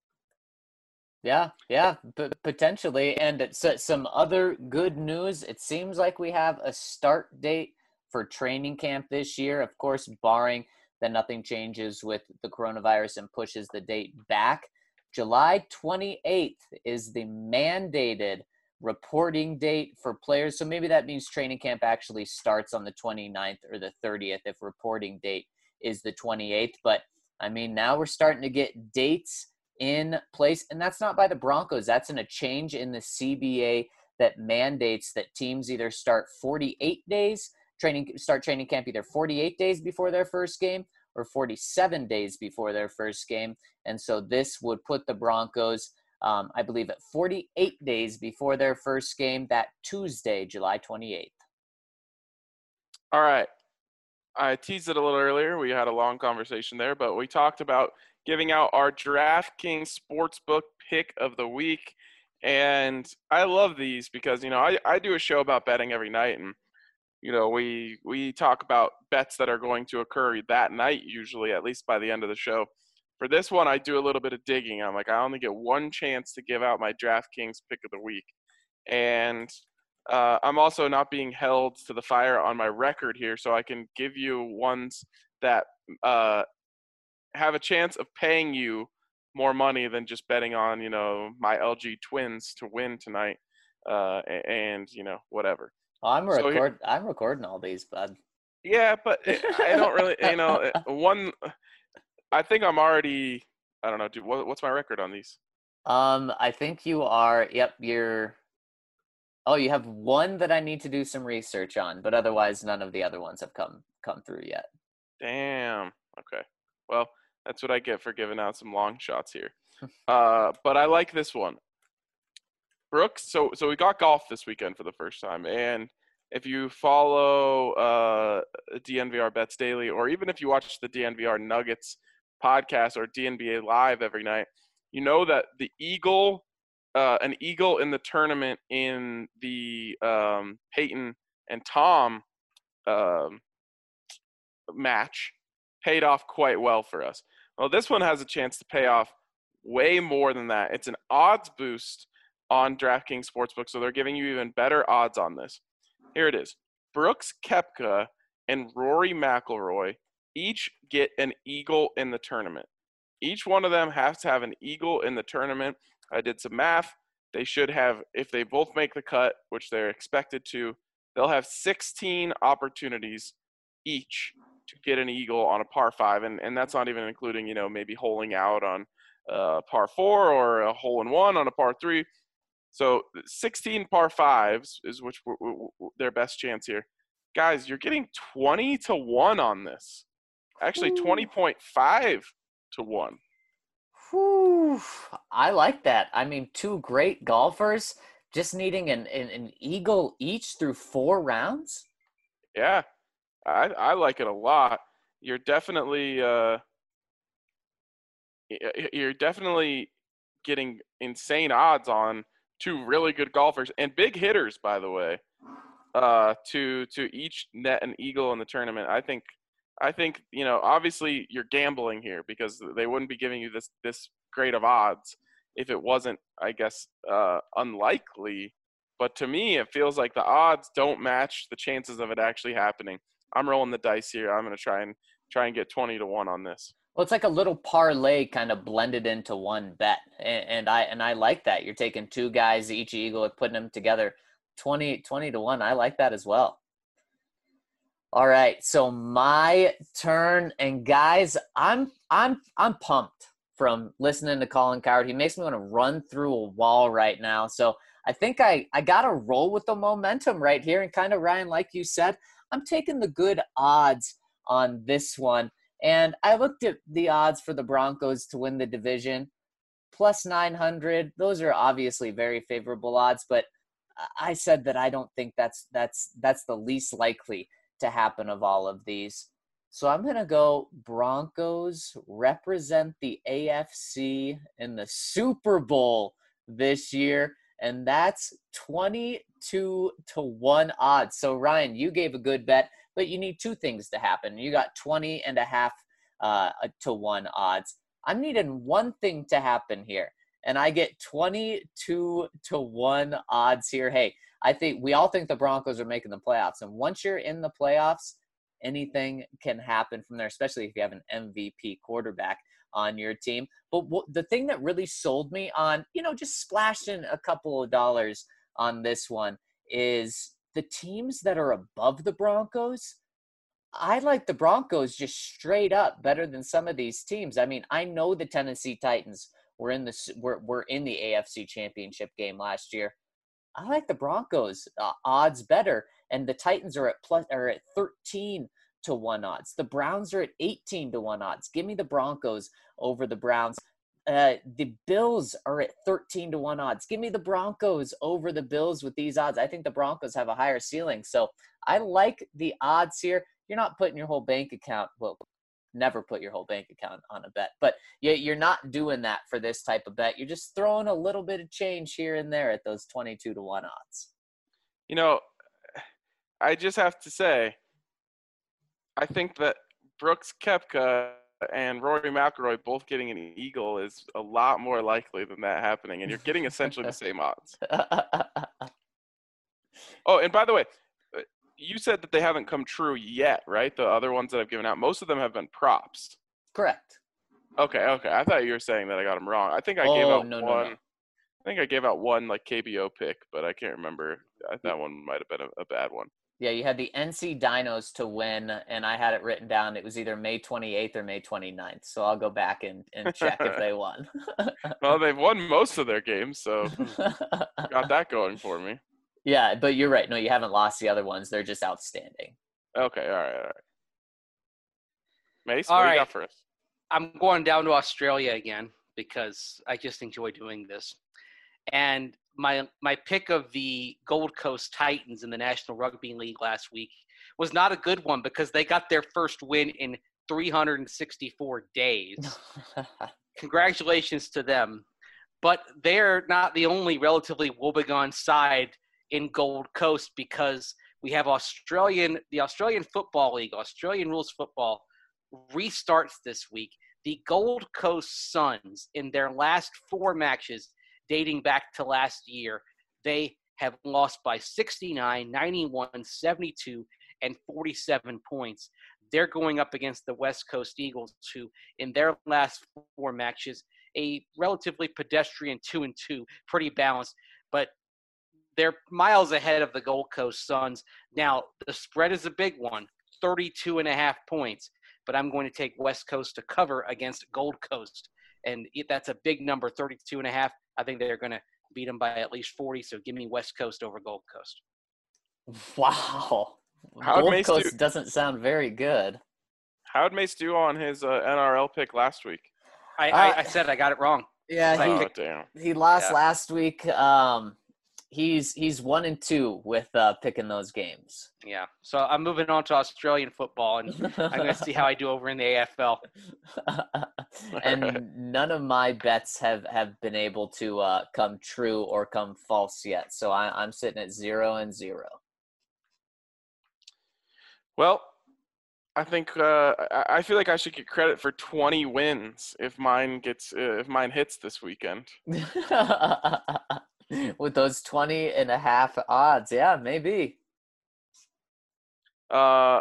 Yeah, potentially. And it's some other good news. It seems like we have a start date for training camp this year, of course, barring that nothing changes with the coronavirus and pushes the date back. July 28th is the mandated reporting date for players. So maybe that means training camp actually starts on the 29th or the 30th if reporting date is the 28th. But I mean, now we're starting to get dates in place, and that's not by the Broncos. That's in a change in the CBA that mandates that teams either start 48 days, start training camp either 48 days before their first game or 47 days before their first game. And so this would put the Broncos, I believe, at 48 days before their first game that Tuesday, July 28th.
All right. I teased it a little earlier. We had a long conversation there, but we talked about giving out our DraftKings Sportsbook pick of the week. And I love these because, I do a show about betting every night. And, we talk about bets that are going to occur that night, usually, at least by the end of the show. For this one, I do a little bit of digging. I'm like, I only get one chance to give out my DraftKings pick of the week. And I'm also not being held to the fire on my record here, so I can give you ones that have a chance of paying you more money than just betting on, my LG Twins to win tonight, and whatever.
Oh, I'm
So
I'm recording all these, bud.
yeah, but I don't really, one. I think I'm already. I don't know. What's my record on these?
I think you are. Yep, you're. Oh, you have one that I need to do some research on, but otherwise none of the other ones have come through yet.
Damn. Okay. Well, that's what I get for giving out some long shots here. But I like this one. Brooks, so we got golf this weekend for the first time. And if you follow DNVR Bets Daily, or even if you watch the DNVR Nuggets podcast or DNBA Live every night, you know that the an eagle in the tournament in the Peyton and Tom match paid off quite well for us. Well, this one has a chance to pay off way more than that. It's an odds boost on DraftKings Sportsbook, so they're giving you even better odds on this. Here it is. Brooks Koepka and Rory McIlroy each get an eagle in the tournament. Each one of them has to have an eagle in the tournament. I did some math. They should have, if they both make the cut, which they're expected to, they'll have 16 opportunities each to get an eagle on a par 5, and that's not even including, maybe holing out on par 4 or a hole in 1 on a par 3. So 16 par 5s is their best chance here. Guys, you're getting 20 to 1 on this. Actually, 20.5 to 1.
Whew, I like that. I mean, two great golfers just needing an eagle each through 4 rounds.
Yeah, I like it a lot. You're definitely getting insane odds on two really good golfers and big hitters, by the way, to each net an eagle in the tournament. I think obviously you're gambling here because they wouldn't be giving you this great of odds if it wasn't, I guess, unlikely. But to me, it feels like the odds don't match the chances of it actually happening. I'm rolling the dice here. I'm going to try and get 20 to 1 on this.
Well, it's like a little parlay kind of blended into one bet, and I like that. You're taking two guys, each eagle, and putting them together, 20 to 1. I like that as well. All right, so my turn, and guys, I'm pumped from listening to Colin Cowherd. He makes me want to run through a wall right now. So I think I got to roll with the momentum right here, and kind of, Ryan, like you said, I'm taking the good odds on this one. And I looked at the odds for the Broncos to win the division, plus 900. Those are obviously very favorable odds, but I said that I don't think that's the least likely to happen of all of these. So I'm going to go Broncos represent the AFC in the Super Bowl this year, and that's 22 to 1 odds. So Ryan, you gave a good bet, but you need two things to happen. You got 20.5 to 1 odds. I'm needing one thing to happen here, and I get 22 to 1 odds here. Hey, I think we all think the Broncos are making the playoffs, and once you're in the playoffs, anything can happen from there, especially if you have an MVP quarterback on your team. But the thing that really sold me on, just splashing a couple of dollars on this one is the teams that are above the Broncos. I like the Broncos just straight up better than some of these teams. I mean, I know the Tennessee Titans were in the AFC Championship game last year. I like the Broncos odds better, and the Titans are at 13 to 1 odds. The Browns are at 18 to 1 odds. Give me the Broncos over the Browns. The Bills are at 13 to 1 odds. Give me the Broncos over the Bills with these odds. I think the Broncos have a higher ceiling. So I like the odds here. you're not putting your whole bank account. Well, never put your whole bank account on a bet, but you're not doing that for this type of bet. You're just throwing a little bit of change here and there at those 22-1 odds.
You know, I just have to say, I think that Brooks Koepka and Rory McIlroy both getting an eagle is a lot more likely than that happening, and you're getting essentially the same odds. Oh, and by the way, you said that they haven't come true yet, right? The other ones that I've given out, most of them have been props.
Correct.
Okay. I thought you were saying that I got them wrong. I think I gave out one. No. I think I gave out one like KBO pick, but I can't remember. That one might have been a bad one.
Yeah, you had the NC Dinos to win, and I had it written down. It was either May 28th or May 29th. So I'll go back and check if they won.
Well, they've won most of their games, so got that going for me.
Yeah, but you're right. No, you haven't lost the other ones. They're just outstanding.
Okay, all right. Mace, what do you got for us?
I'm going down to Australia again because I just enjoy doing this. And my pick of the Gold Coast Titans in the National Rugby League last week was not a good one because they got their first win in 364 days. Congratulations to them. But they're not the only relatively woebegone side in Gold Coast because we have the Australian Football League, Australian rules football, restarts this week. The Gold Coast Suns, in their last 4 matches dating back to last year, they have lost by 69, 91, 72, and 47 points. They're going up against the West Coast Eagles, who, in their last 4 matches, a relatively pedestrian 2-2, pretty balanced, but they're miles ahead of the Gold Coast Suns. Now, the spread is a big one, 32.5 points, but I'm going to take West Coast to cover against Gold Coast. And that's a big number, 32.5. I think they're going to beat them by at least 40, so give me West Coast over Gold Coast.
Wow. Gold Coast doesn't sound very good.
How'd Mace do on his NRL pick last week?
I said I got it wrong.
Yeah, he lost last week. He's 1-2 with picking those games.
Yeah, so I'm moving on to Australian football, and I'm going to see how I do over in the AFL.
And none of my bets have been able to come true or come false yet. So I'm sitting at 0-0.
Well, I think I feel like I should get credit for 20 wins if mine hits this weekend.
With those 20.5 odds, yeah, maybe.
I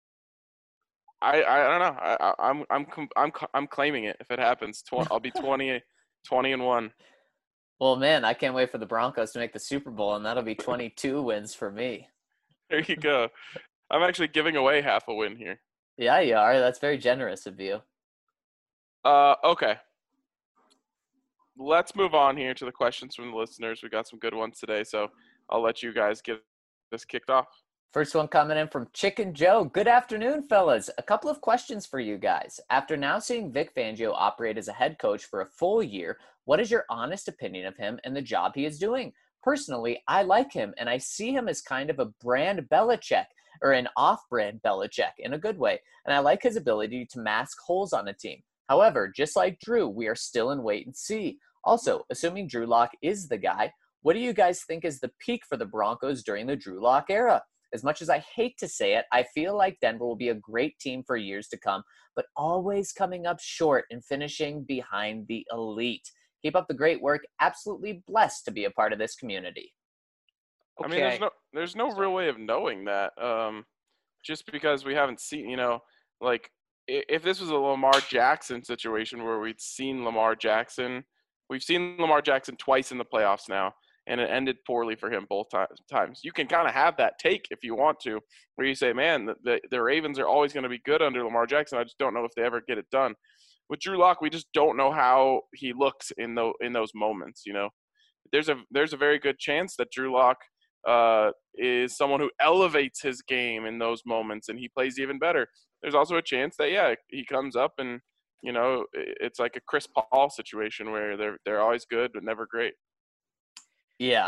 don't know. I'm claiming it if it happens. I'll be 20-1.
Well, man, I can't wait for the Broncos to make the Super Bowl, and that'll be 22 wins for me.
There you go. I'm actually giving away half a win here.
Yeah, you are. That's very generous of you.
Okay. Let's move on here to the questions from the listeners. We got some good ones today, so I'll let you guys get this kicked off.
First one coming in from Chicken Joe. Good afternoon, fellas. A couple of questions for you guys. After now seeing Vic Fangio operate as a head coach for a full year, what is your honest opinion of him and the job he is doing? Personally, I like him, and I see him as kind of a brand Belichick, or an off-brand Belichick in a good way, and I like his ability to mask holes on a team. However, just like Drew, we are still in wait and see. Also, assuming Drew Lock is the guy, what do you guys think is the peak for the Broncos during the Drew Lock era? As much as I hate to say it, I feel like Denver will be a great team for years to come, but always coming up short and finishing behind the elite. Keep up the great work. Absolutely blessed to be a part of this community.
Okay. I mean, there's no real way of knowing that. Just because we haven't seen, like if this was a Lamar Jackson situation where we'd seen Lamar Jackson, we've seen Lamar Jackson twice in the playoffs now, and it ended poorly for him both times. You can kind of have that take if you want to, where you say, man, the Ravens are always going to be good under Lamar Jackson. I just don't know if they ever get it done. With Drew Lock, we just don't know how he looks in those moments. There's a very good chance that Drew Lock is someone who elevates his game in those moments and he plays even better. There's also a chance that, he comes up and, it's like a Chris Paul situation where they're always good but never great.
Yeah.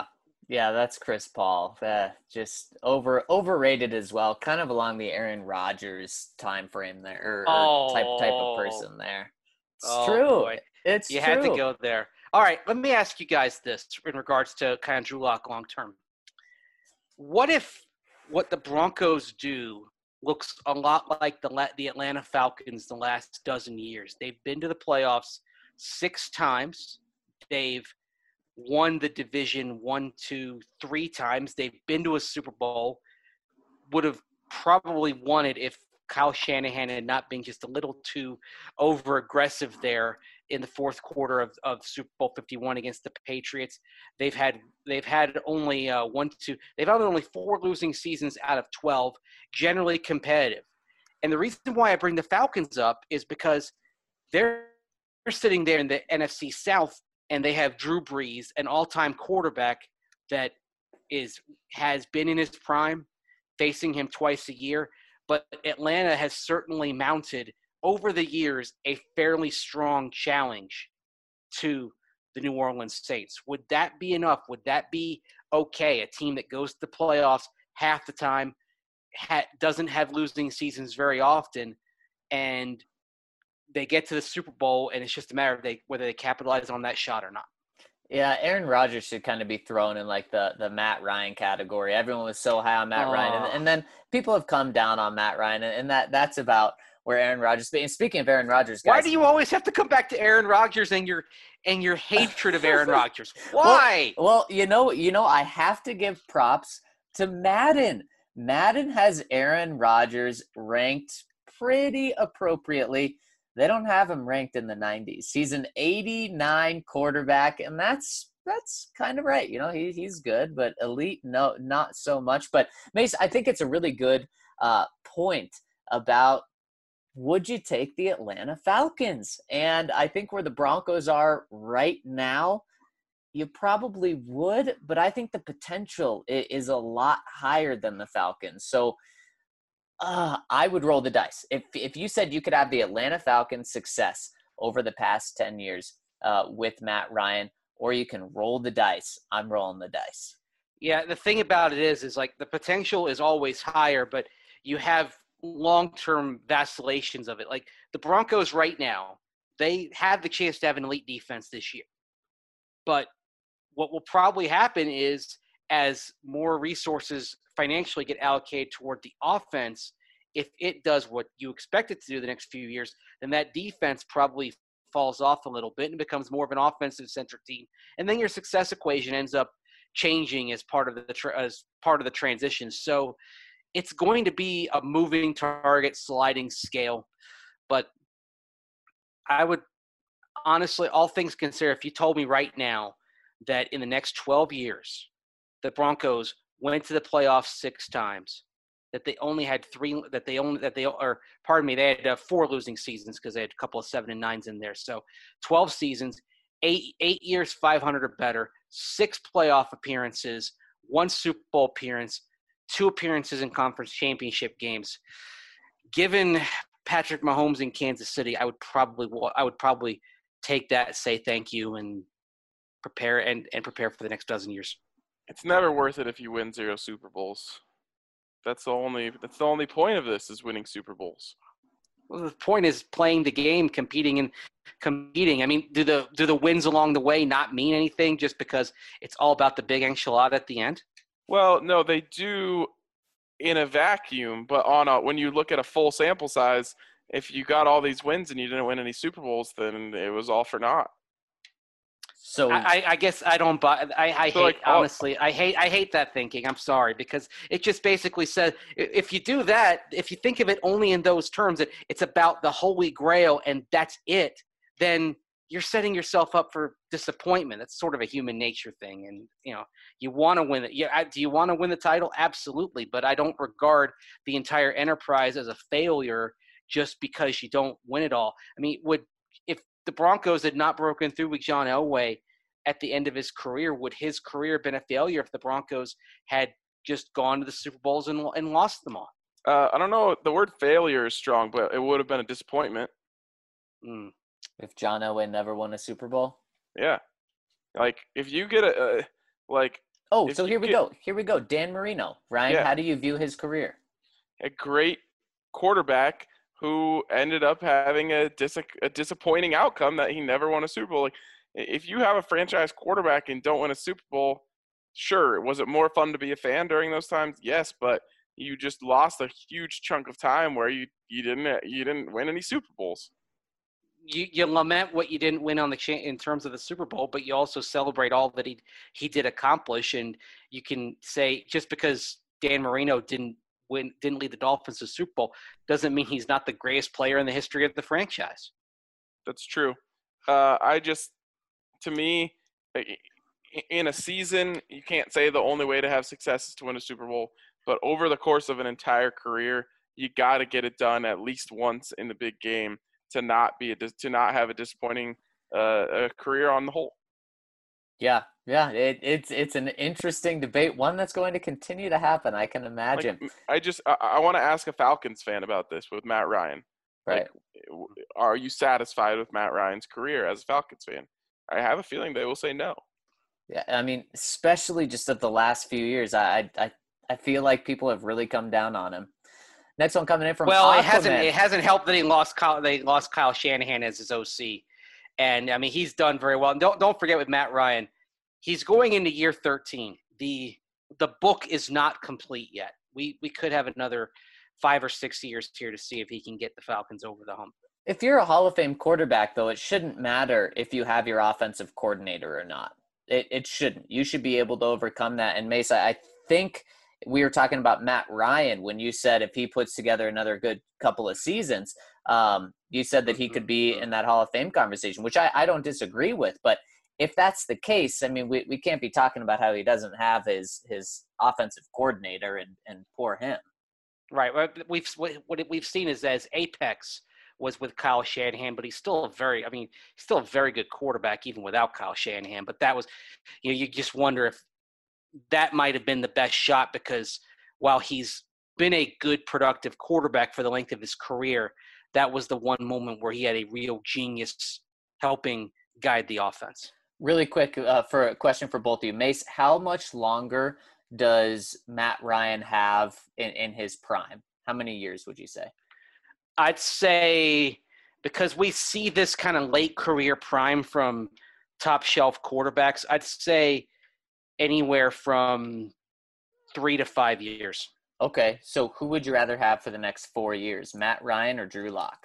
Yeah, that's Chris Paul. Just overrated as well. Kind of along the Aaron Rodgers time frame there, or type of
Oh,
person there. It's
oh
true.
boy.
It's
You had to
true.
go there. All right, let me ask you guys this in regards to kind of Drew Lock long term. What if what the Broncos do looks a lot like the Atlanta Falcons the last dozen years? They've been to the playoffs 6 times. They've won the division 1, 2, 3 times. They've been to a Super Bowl. Would have probably won it if Kyle Shanahan had not been just a little too over aggressive there in the fourth quarter of Super Bowl 51 against the Patriots. They've had only they've had only 4 losing seasons out of 12, generally competitive. And the reason why I bring the Falcons up is because they're sitting there in the NFC South and they have Drew Brees, an all-time quarterback that has been in his prime, facing him twice a year. But Atlanta has certainly mounted over the years a fairly strong challenge to the New Orleans Saints. Would that be enough? Would that be okay? A team that goes to the playoffs half the time, doesn't have losing seasons very often, and they get to the Super Bowl, and it's just a matter of whether they capitalize on that shot or not.
Yeah, Aaron Rodgers should kind of be thrown in like the Matt Ryan category. Everyone was so high on Matt Ryan, and then people have come down on Matt Ryan, and that's about where Aaron Rodgers. And speaking of Aaron Rodgers, guys,
why do you always have to come back to Aaron Rodgers and your hatred of Aaron Rodgers? Why?
Well, I have to give props to Madden. Madden has Aaron Rodgers ranked pretty appropriately. They don't have him ranked in the 90s. He's an 89 quarterback, and that's kind of right. He's good, but elite, no, not so much. But Mace, I think it's a really good point about would you take the Atlanta Falcons? And I think where the Broncos are right now, you probably would, but I think the potential is a lot higher than the Falcons. So I would roll the dice. If you said you could have the Atlanta Falcons' success over the past 10 years with Matt Ryan, or you can roll the dice, I'm rolling the dice.
Yeah, the thing about it is like the potential is always higher, but you have long-term vacillations of it. Like the Broncos right now, they have the chance to have an elite defense this year. But what will probably happen is as more resources financially get allocated toward the offense, if it does what you expect it to do the next few years, then that defense probably falls off a little bit and becomes more of an offensive-centric team. And then your success equation ends up changing as part of the transition. So it's going to be a moving target, sliding scale. But I would honestly, all things considered, if you told me right now that in the next 12 years, the Broncos went to the playoffs 6 times, that they only had they had 4 losing seasons because they had a couple of 7 and 9s in there. So 12 seasons, 8 years, 500 or better, 6 playoff appearances, 1 Super Bowl appearance, 2 appearances in conference championship games. Given Patrick Mahomes in Kansas City, I would probably take that, say thank you, and prepare for the next dozen years.
It's never worth it if you win 0 Super Bowls. That's the only point of this is winning Super Bowls.
Well, the point is playing the game, competing. I mean, do the wins along the way not mean anything just because it's all about the big enchilada at the end?
Well, no, they do in a vacuum, but when you look at a full sample size, if you got all these wins and you didn't win any Super Bowls, then it was all for naught.
So I guess I don't buy. Honestly, I hate that thinking. I'm sorry, because it just basically says if you do that, if you think of it only in those terms, that it's about the Holy Grail and that's it, then you're setting yourself up for disappointment. That's sort of a human nature thing, and you want to win it. Yeah, do you want to win the title? Absolutely, but I don't regard the entire enterprise as a failure just because you don't win it all. I mean, if the Broncos had not broken through with John Elway at the end of his career, would his career have been a failure if the Broncos had just gone to the Super Bowls and lost them all?
I don't know. The word failure is strong, but it would have been a disappointment.
If John Elway never won a Super Bowl?
Yeah. Like, if you get
Oh,
If
so
you
here we
get
go. Here we go. Dan Marino. Ryan,
yeah,
how do you view his career?
a great quarterback who ended up having a disappointing outcome that he never won a Super Bowl. Like, if you have a franchise quarterback and don't win a Super Bowl, sure, was it more fun to be a fan during those times? Yes, but you just lost a huge chunk of time where you didn't win any Super Bowls.
You lament what you didn't win on in terms of the Super Bowl, but you also celebrate all that he did accomplish. And you can say just because Dan Marino didn't lead the Dolphins to the Super Bowl doesn't mean he's not the greatest player in the history of the franchise.
That's true. To me, in a season, you can't say the only way to have success is to win a Super Bowl. But over the course of an entire career, you got to get it done at least once in the big game to not have a disappointing career on the whole.
Yeah, it's an interesting debate, one that's going to continue to happen. I can imagine.
I want to ask a Falcons fan about this with Matt Ryan.
Right.
Are you satisfied with Matt Ryan's career as a Falcons fan? I have a feeling they will say no.
Yeah, I mean, especially just of the last few years, I feel like people have really come down on him. Next one coming in from Aquaman.
It hasn't helped that they lost Kyle Shanahan as his OC, and I mean he's done very well. And don't forget with Matt Ryan, he's going into year 13. The book is not complete yet. We could have another 5 or 6 years here to see if he can get the Falcons over the hump.
If you're a Hall of Fame quarterback, though, it shouldn't matter if you have your offensive coordinator or not. It shouldn't. You should be able to overcome that. And Mesa, I think we were talking about Matt Ryan when you said if he puts together another good couple of seasons, you said that he could be in that Hall of Fame conversation, which I don't disagree with. But if that's the case, I mean, we can't be talking about how he doesn't have his offensive coordinator and poor him.
Right. What we've seen is as apex was with Kyle Shanahan, but he's still a very good quarterback even without Kyle Shanahan. But that was, you just wonder if that might have been the best shot, because while he's been a good productive quarterback for the length of his career, that was the one moment where he had a real genius helping guide the offense.
Really quick, for a question for both of you. Mace, how much longer does Matt Ryan have in his prime? How many years would you say?
I'd say, because we see this kind of late career prime from top shelf quarterbacks, I'd say anywhere from 3 to 5 years.
Okay, so who would you rather have for the next 4 years, Matt Ryan or Drew Lock?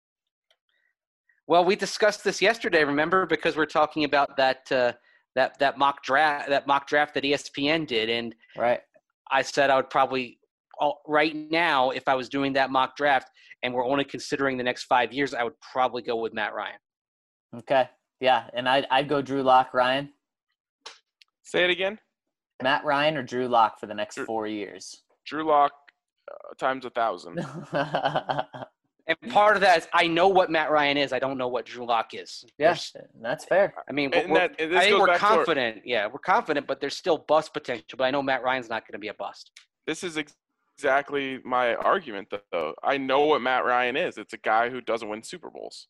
Well, we discussed this yesterday, remember, because we're talking about that mock draft that ESPN did, and
right.
I said I would probably right now, if I was doing that mock draft and we're only considering the next 5 years, I would probably go with Matt Ryan.
Okay, yeah, and I'd go Drew Lock. Ryan,
say it again.
Matt Ryan or Drew Lock for the next 4 years?
Drew Lock times 1,000.
And part of that is I know what Matt Ryan is. I don't know what Drew Lock is.
Yes, that's fair.
I mean, I think we're confident. Yeah, we're confident, but there's still bust potential. But I know Matt Ryan's not going to be a bust.
This is exactly my argument, though. I know what Matt Ryan is. It's a guy who doesn't win Super Bowls.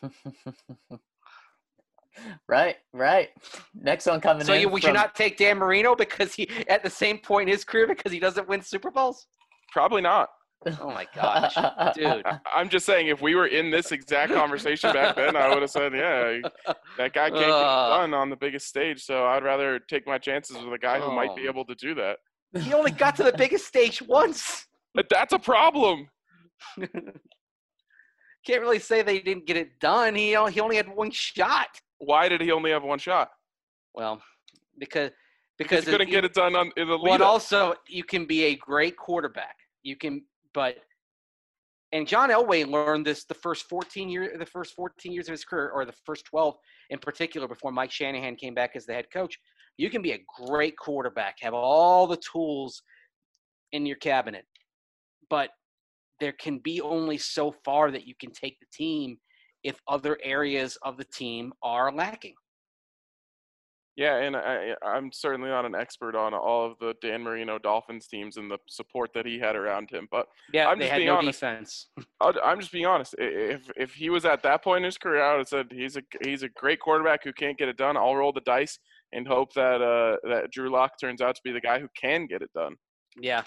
Right. Next one coming in.
So would you not take Dan Marino because he at the same point in his career because he doesn't win Super Bowls?
Probably not.
Oh my gosh, dude!
I'm just saying, if we were in this exact conversation back then, I would have said, "Yeah, that guy can't get it done on the biggest stage." So I'd rather take my chances with a guy who might be able to do that.
He only got to the biggest stage once.
But that's a problem.
Can't really say they didn't get it done. He only had one shot.
Why did he only have one shot?
Well, because
he couldn't get it done in the lead.
But also, you can be a great quarterback. And John Elway learned this the first 14 years of his career, or the first 12 in particular, before Mike Shanahan came back as the head coach. You can be a great quarterback, have all the tools in your cabinet, but there can be only so far that you can take the team if other areas of the team are lacking.
Yeah, and I'm certainly not an expert on all of the Dan Marino Dolphins teams and the support that he had around him, but
yeah,
I'm
they
just
had
being
no
honest.
defense.
I'm just being honest. If he was at that point in his career, I would have said he's a great quarterback who can't get it done. I'll roll the dice and hope that that Drew Lock turns out to be the guy who can get it done.
Yeah,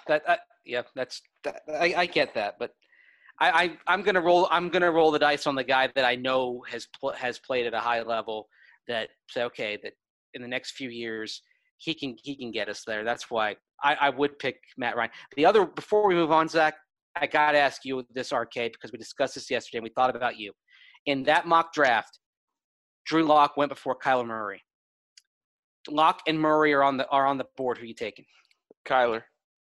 I get that, but I'm gonna roll the dice on the guy that I know has played at a high level. That say okay, that in the next few years he can get us there. That's why I would pick Matt Ryan. The other, before we move on, Zach, I gotta ask you this, RK, because we discussed this yesterday and we thought about you. In that mock draft, Drew Lock went before Kyler Murray. Lock and Murray are on the board. Who are you taking?
Kyler.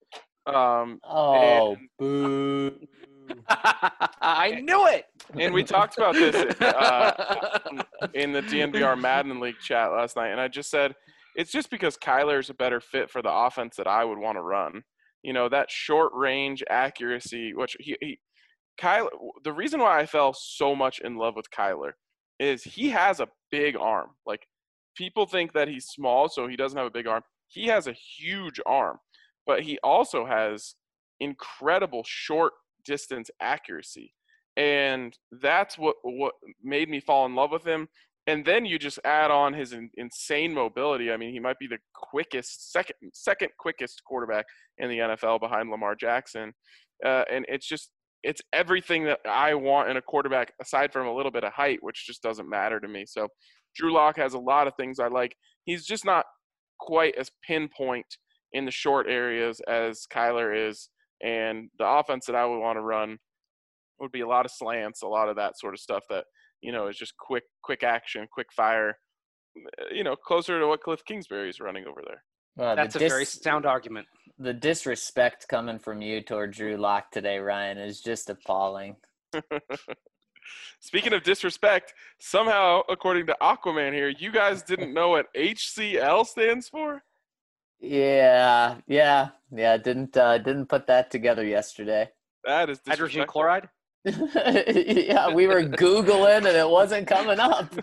Boo.
I knew it.
And we talked about this in the DNVR Madden League chat last night, and I just said it's just because Kyler's a better fit for the offense that I would want to run. You know, that short range accuracy, which Kyler. The reason why I fell so much in love with Kyler is he has a big arm. Like, people think that he's small, so he doesn't have a big arm. He has a huge arm, but he also has incredible short distance accuracy. And that's what made me fall in love with him. And then you just add on his insane mobility. I mean, he might be the quickest, second quickest quarterback in the NFL behind Lamar Jackson. And it's everything that I want in a quarterback, aside from a little bit of height, which just doesn't matter to me. So Drew Lock has a lot of things I like. He's just not quite as pinpoint in the short areas as Kyler is. And the offense that I would want to run would be a lot of slants, a lot of that sort of stuff that, you know, is just quick action, quick fire, you know, closer to what Cliff Kingsbury is running over there.
That's a very sound argument.
The disrespect coming from you toward Drew Lock today, Ryan, is just appalling.
Speaking of disrespect, somehow, according to Aquaman here, you guys didn't know what HCL stands for?
Yeah. Didn't put that together yesterday.
That is
hydrogen chloride.
Yeah, we were Googling and it wasn't coming up.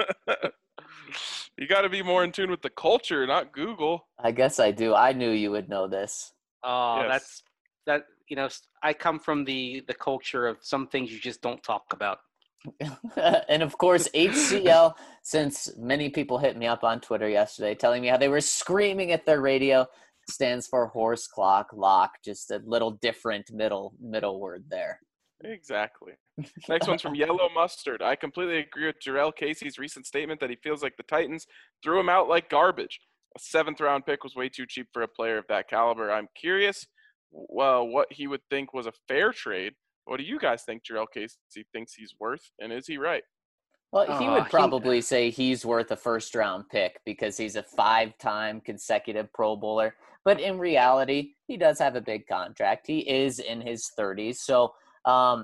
You got to be more in tune with the culture, not Google.
I guess I do. I knew you would know this.
Oh, yes. That. You know, I come from the culture of some things you just don't talk about.
And of course, HCL, since many people hit me up on Twitter yesterday telling me how they were screaming at their radio, stands for horse clock lock, just a little different middle word there.
Exactly. Next one's from Yellow Mustard. I completely agree with Jurrell Casey's recent statement that he feels like the Titans threw him out like garbage. A 7th-round pick was way too cheap for a player of that caliber. I'm curious what he would think was a fair trade. What do you guys think Jurrell Casey thinks he's worth, and is he right?
Well, he would probably say he's worth a first-round pick because he's a 5-time consecutive Pro Bowler. But in reality, he does have a big contract. He is in his 30s. So a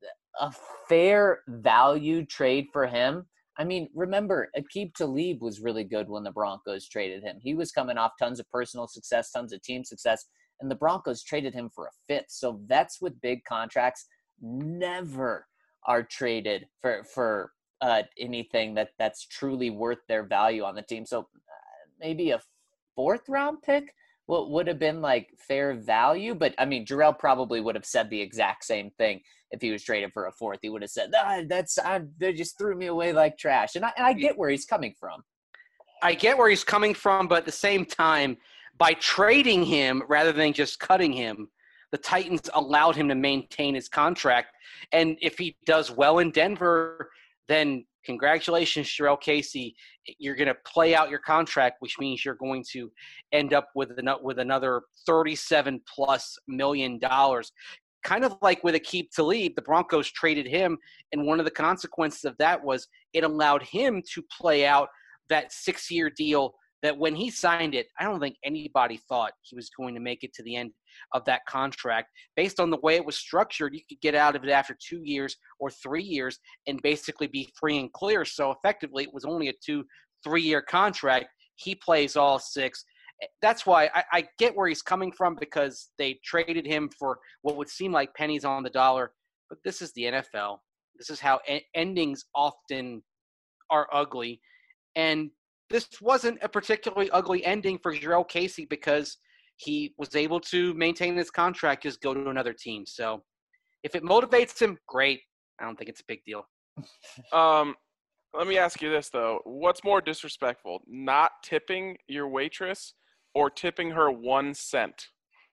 fair value trade for him. I mean, remember, Aqib Talib was really good when the Broncos traded him. He was coming off tons of personal success, tons of team success, and the Broncos traded him for a 5th. So vets with big contracts never are traded for anything that's truly worth their value on the team. So maybe a 4th-round pick would have been like fair value. But, I mean, Jurrell probably would have said the exact same thing if he was traded for a 4th. He would have said, they just threw me away like trash. And I get where he's coming from.
I get where he's coming from, but at the same time, by trading him rather than just cutting him, the Titans allowed him to maintain his contract. And if he does well in Denver, then congratulations, Jurrell Casey. You're going to play out your contract, which means you're going to end up with another $37+ million. Kind of like with Aqib Talib, the Broncos traded him, and one of the consequences of that was it allowed him to play out that 6-year deal that when he signed it, I don't think anybody thought he was going to make it to the end of that contract. Based on the way it was structured, you could get out of it after 2 years or 3 years and basically be free and clear. So effectively, it was only a 2-3-year contract. He plays all 6. That's why I get where he's coming from, because they traded him for what would seem like pennies on the dollar. But this is the NFL. This is how endings often are ugly. And this wasn't a particularly ugly ending for Jurrell Casey because he was able to maintain his contract, just go to another team. So if it motivates him, great. I don't think it's a big deal.
Let me ask you this, though. What's more disrespectful, not tipping your waitress or tipping her 1 cent?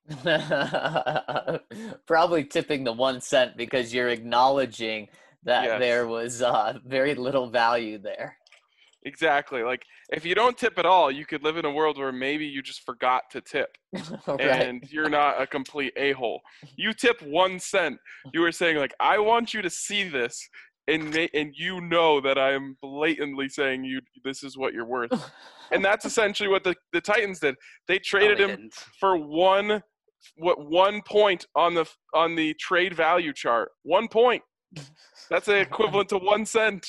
Probably tipping the 1 cent because you're acknowledging that
Yes.
there was very little value there.
Exactly. Like, if you don't tip at all, you could live in a world where maybe you just forgot to tip.
Right.
And you're not a complete a-hole. You tip 1 cent. You were saying, like, I want you to see this, and you know that I'm blatantly saying this is what you're worth. And that's essentially what the Titans did. They traded
they
him
didn't.
for 1 point on the trade value chart. 1 point. That's equivalent to 1 cent.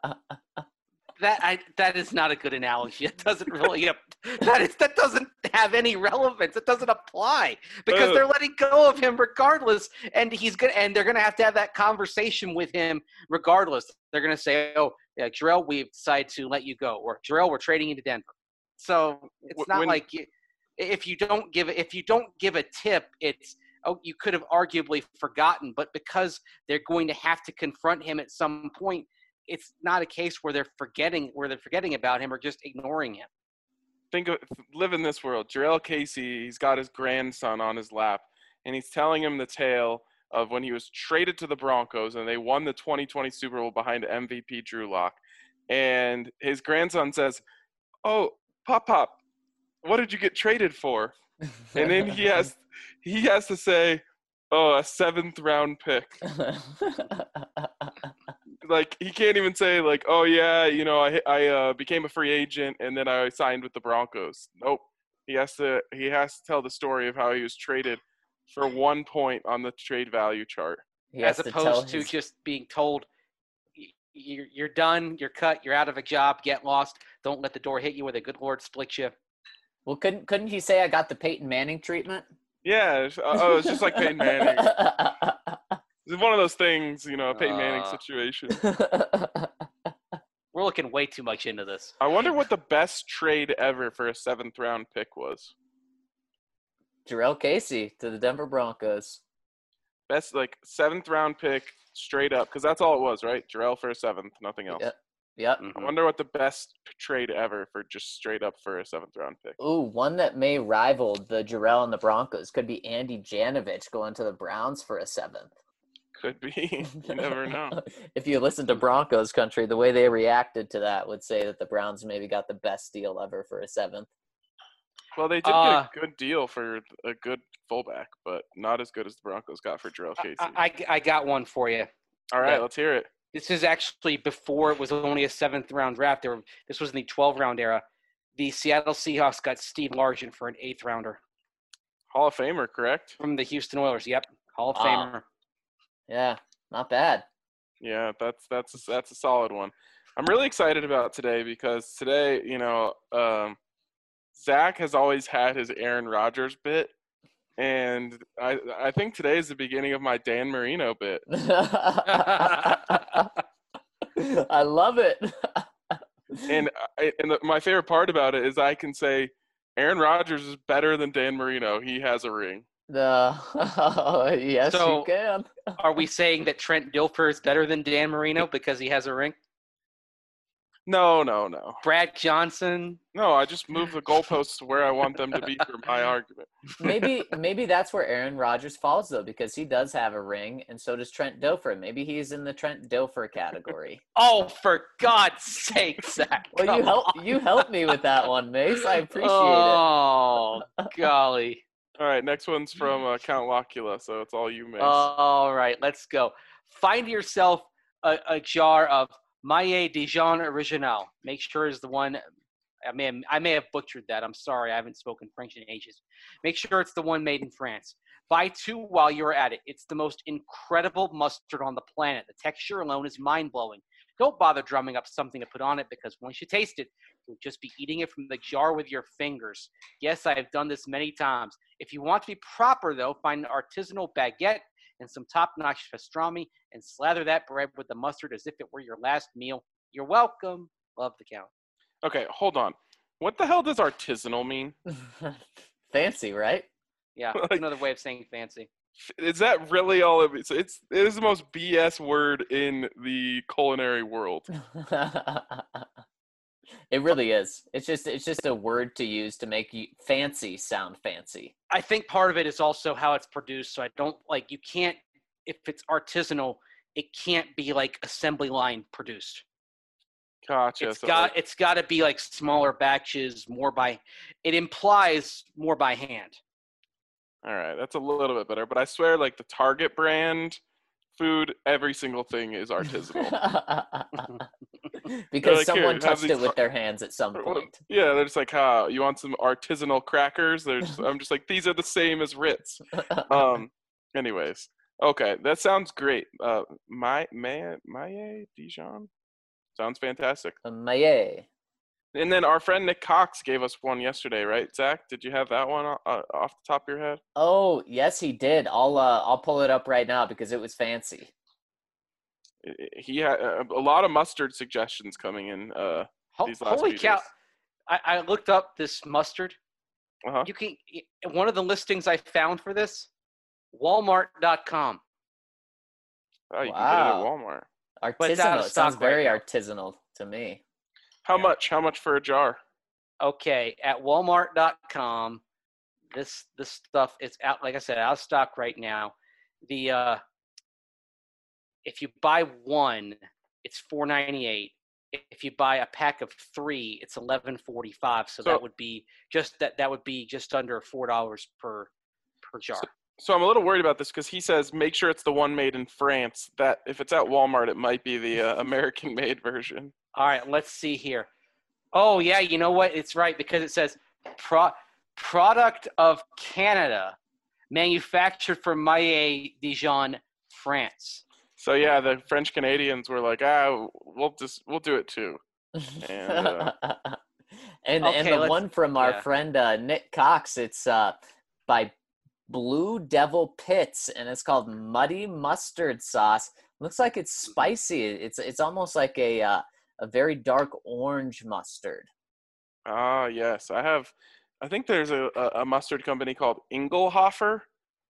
That is not a good analogy. It doesn't really that doesn't have any relevance. It doesn't apply because they're letting go of him regardless, and they're gonna have to have that conversation with him regardless. They're gonna say, "Oh, yeah, Jarrell, we've decided to let you go," or "Jarrell, we're trading you to Denver." So it's not like if you don't give a tip, it's you could have arguably forgotten, but because they're going to have to confront him at some point. It's not a case where they're forgetting about him or just ignoring him.
Live in this world. Jarrell Casey, he's got his grandson on his lap, and he's telling him the tale of when he was traded to the Broncos and they won the 2020 Super Bowl behind MVP Drew Lock. And his grandson says, "Oh, Pop, what did you get traded for?" And then he has to say, "Oh, a 7th round pick." Like, he can't even say, like, "Oh yeah, I became a free agent and then I signed with the Broncos." Nope. He has to tell the story of how he was traded for 1 point on the trade value chart,
as opposed to just being told, "You're done, you're cut, you're out of a job, get lost. Don't let the door hit you where the good Lord split you."
Well, couldn't he say, "I got the Peyton Manning treatment"?
Yeah. It's just like Peyton Manning. It's one of those things, a Peyton Manning situation.
We're looking way too much into this.
I wonder what the best trade ever for a 7th round pick was.
Jarrell Casey to the Denver Broncos.
Best, 7th round pick straight up, because that's all it was, right? Jarrell for a 7th, nothing else.
Yep.
I wonder what the best trade ever for just straight up for a 7th round pick.
Ooh, one that may rival the Jarrell and the Broncos could be Andy Janovich going to the Browns for a 7th.
Could be. You never know.
If you listen to Broncos country, the way they reacted to that would say that the Browns maybe got the best deal ever for a 7th.
Well, they did get a good deal for a good fullback, but not as good as the Broncos got for Jarrell Casey.
I got one for you.
All right, let's hear it.
This is actually before it was only a 7th round draft. This was in the 12 round era. The Seattle Seahawks got Steve Largent for an 8th rounder.
Hall of Famer, correct?
From the Houston Oilers. Yep, Hall of Famer.
Yeah, not bad.
Yeah, that's a solid one. I'm really excited about today because today, Zach has always had his Aaron Rodgers bit, and I think today is the beginning of my Dan Marino bit.
I love it.
And my favorite part about it is I can say Aaron Rodgers is better than Dan Marino. He has a ring.
Yes,
So,
you can.
Are we saying that Trent Dilfer is better than Dan Marino because he has a ring?
No.
Brad Johnson?
No, I just move the goalposts to where I want them to be for my argument.
Maybe that's where Aaron Rodgers falls, though, because he does have a ring, and so does Trent Dilfer. Maybe he's in the Trent Dilfer category.
Oh, for God's sake, Zach.
Well, you helped me with that one, Mace. I appreciate it.
Oh, golly.
All right, next one's from Count Locula, so it's all you, Mace.
All right, let's go. Find yourself a jar of Maillet Dijon Original. Make sure it's the one. I may have butchered that. I'm sorry. I haven't spoken French in ages. Make sure it's the one made in France. Buy 2 while you're at it. It's the most incredible mustard on the planet. The texture alone is mind-blowing. Don't bother drumming up something to put on it because once you taste it, you'll just be eating it from the jar with your fingers. Yes, I have done this many times. If you want to be proper, though, find an artisanal baguette and some top-notch pastrami and slather that bread with the mustard as if it were your last meal. You're welcome. Love the Count.
Okay, hold on. What the hell does artisanal mean?
Fancy, right?
Yeah, it's another way of saying fancy.
Is that really all it is? It is the most BS word in the culinary world.
It really is. It's just a word to use to make you fancy sound fancy.
I think part of it is also how it's produced. So I don't like, you can't, if it's artisanal, it can't be like assembly line produced.
Gotcha.
It's got to be like smaller batches, it implies more by hand.
All right, that's a little bit better. But I swear, like the Target brand food, every single thing is artisanal.
Because
like,
someone
"Here,
touched
have
it
these
with their hands at some point.
Yeah, they're just like, you want some artisanal crackers? I'm just like, these are the same as Ritz. Anyways, okay, that sounds great. Maille Dijon sounds fantastic.
Maillet.
And then our friend Nick Cox gave us one yesterday, right? Zach, did you have that one off the top of your head?
Oh, yes, he did. I'll pull it up right now because it was fancy.
He had a lot of mustard suggestions coming in. These last
Holy
few
cow!
days.
I looked up this mustard.
Uh-huh.
You can, one of the listings I found for this, Walmart.com.
Oh, you can get it at
Wow.
Walmart.
But it's out
Artisanal.
of
It sounds
stock
very
right
artisanal to me.
How
Yeah.
much? How much for a jar?
Okay, at Walmart.com, this stuff is out. Like I said, out of stock right now. The if you buy one, it's $4.98. If you buy a pack of 3, it's $11.45. So that would be just under $4 per jar.
So I'm a little worried about this because he says make sure it's the one made in France. That if it's at Walmart, it might be the American-made version.
All right, let's see here. Oh yeah, you know what? It's right because it says product of Canada, manufactured for Maille Dijon, France.
So yeah, the French Canadians were like, we'll do it too. And
and
Okay,
the one from our
yeah.
friend Nick Cox, it's by Blue Devil Pits, and it's called Muddy Mustard Sauce. Looks like it's spicy. It's almost like a very dark orange mustard.
yes, I think there's a mustard company called Ingelhofer.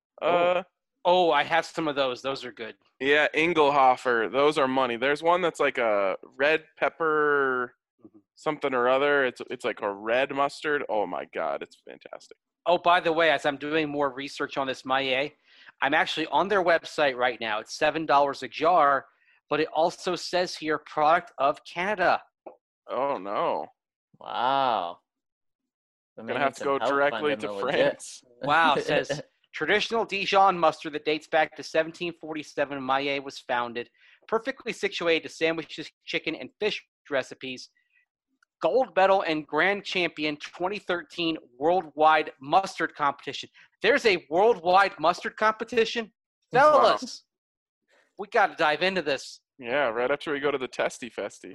Oh, I have some of those. Those are good.
Yeah, Ingelhofer. Those are money. There's one that's like a red pepper something or other. It's like a red mustard. Oh my God, it's fantastic.
Oh, by the way, as I'm doing more research on this Maille, I'm actually on their website right now. It's $7 a jar, but it also says here product of Canada.
Oh no.
Wow.
I'm gonna have to go directly to France.
Wow, it says traditional Dijon mustard that dates back to 1747. Maille was founded, perfectly situated to sandwiches, chicken, and fish recipes. Gold medal and grand champion 2013 worldwide mustard competition. There's a worldwide mustard competition? Fellas, we got to dive into this.
Yeah, right after we go to the Testy Festy.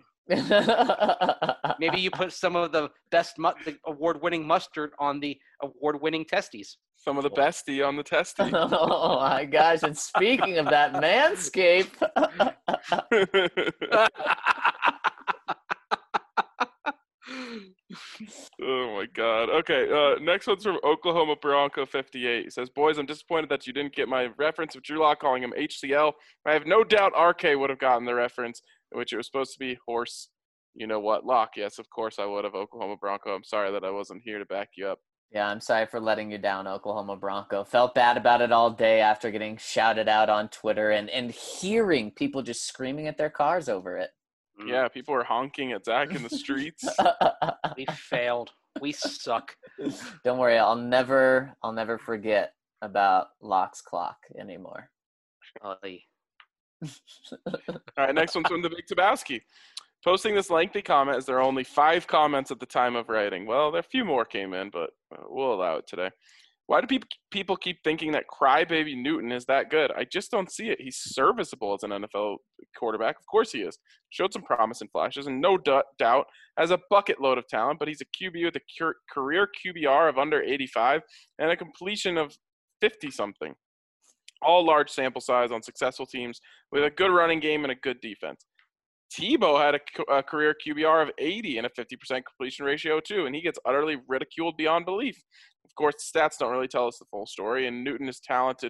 Maybe you put some of the best the award-winning mustard on the award-winning testes.
Some of the bestie on the Testy.
Oh my gosh! And speaking of that, Manscaped.
Oh my God. Okay, next one's from Oklahoma Bronco 58. He says, "Boys, I'm disappointed that you didn't get my reference of Drew Lock calling him HCL. I have no doubt RK would have gotten the reference, in which it was supposed to be horse. You know what, Lock? Yes, of course I would have. Oklahoma Bronco. I'm sorry that I wasn't here to back you up."
Yeah, I'm sorry for letting you down, Oklahoma Bronco. Felt bad about it all day after getting shouted out on Twitter and hearing people just screaming at their cars over it.
Yeah, people were honking at Zach in the streets.
We failed. We suck.
Don't worry, I'll never forget about Lock's clock anymore.
All right, next one's from the Big Tabowski. Posting this lengthy comment as there are only 5 comments at the time of writing. Well, there a few more came in, but we'll allow it today. Why do people keep thinking that Crybaby Newton is that good? I just don't see it. He's serviceable as an NFL quarterback. Of course he is. Showed some promise and flashes, and no doubt has a bucket load of talent, but he's a QB with a career QBR of under 85 and a completion of 50-something. All large sample size on successful teams with a good running game and a good defense. Tebow had a career QBR of 80 and a 50% completion ratio too, and he gets utterly ridiculed beyond belief. Of course, the stats don't really tell us the full story, and Newton is talented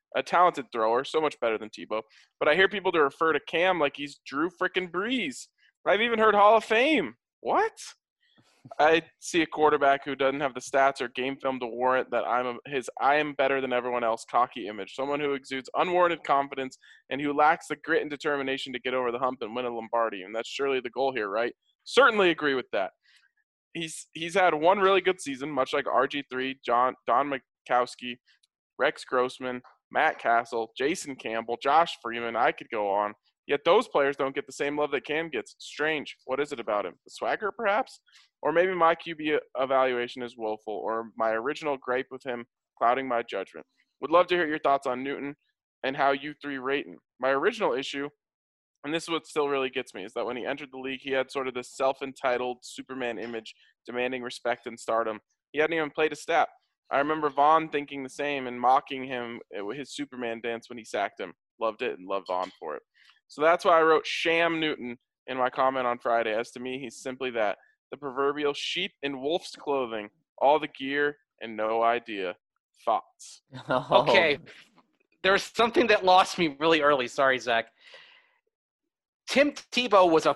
a talented thrower, so much better than Tebow. But I hear people to refer to Cam like he's Drew frickin' Brees. I've even heard Hall of Fame. What? I see a quarterback who doesn't have the stats or game film to warrant that I am better than everyone else cocky image. Someone who exudes unwarranted confidence and who lacks the grit and determination to get over the hump and win a Lombardi. And that's surely the goal here, right? Certainly agree with that. He's had one really good season, much like RG3, Don Majkowski, Rex Grossman, Matt Castle, Jason Campbell, Josh Freeman. I could go on. Yet those players don't get the same love that Cam gets. Strange. What is it about him? The swagger, perhaps? Or maybe my QB evaluation is woeful, or my original gripe with him clouding my judgment. Would love to hear your thoughts on Newton and how you three rate him. My original issue, and this is what still really gets me, is that when he entered the league, he had sort of this self-entitled Superman image demanding respect and stardom. He hadn't even played a snap. I remember Vaughn thinking the same and mocking him with his Superman dance when he sacked him. Loved it and loved Vaughn for it. So that's why I wrote Sham Newton in my comment on Friday. As to me, he's simply that. The proverbial sheep in wolf's clothing, all the gear and no idea. Thoughts?
Okay. There was something that lost me really early. Sorry, Zach. Tim Tebow was a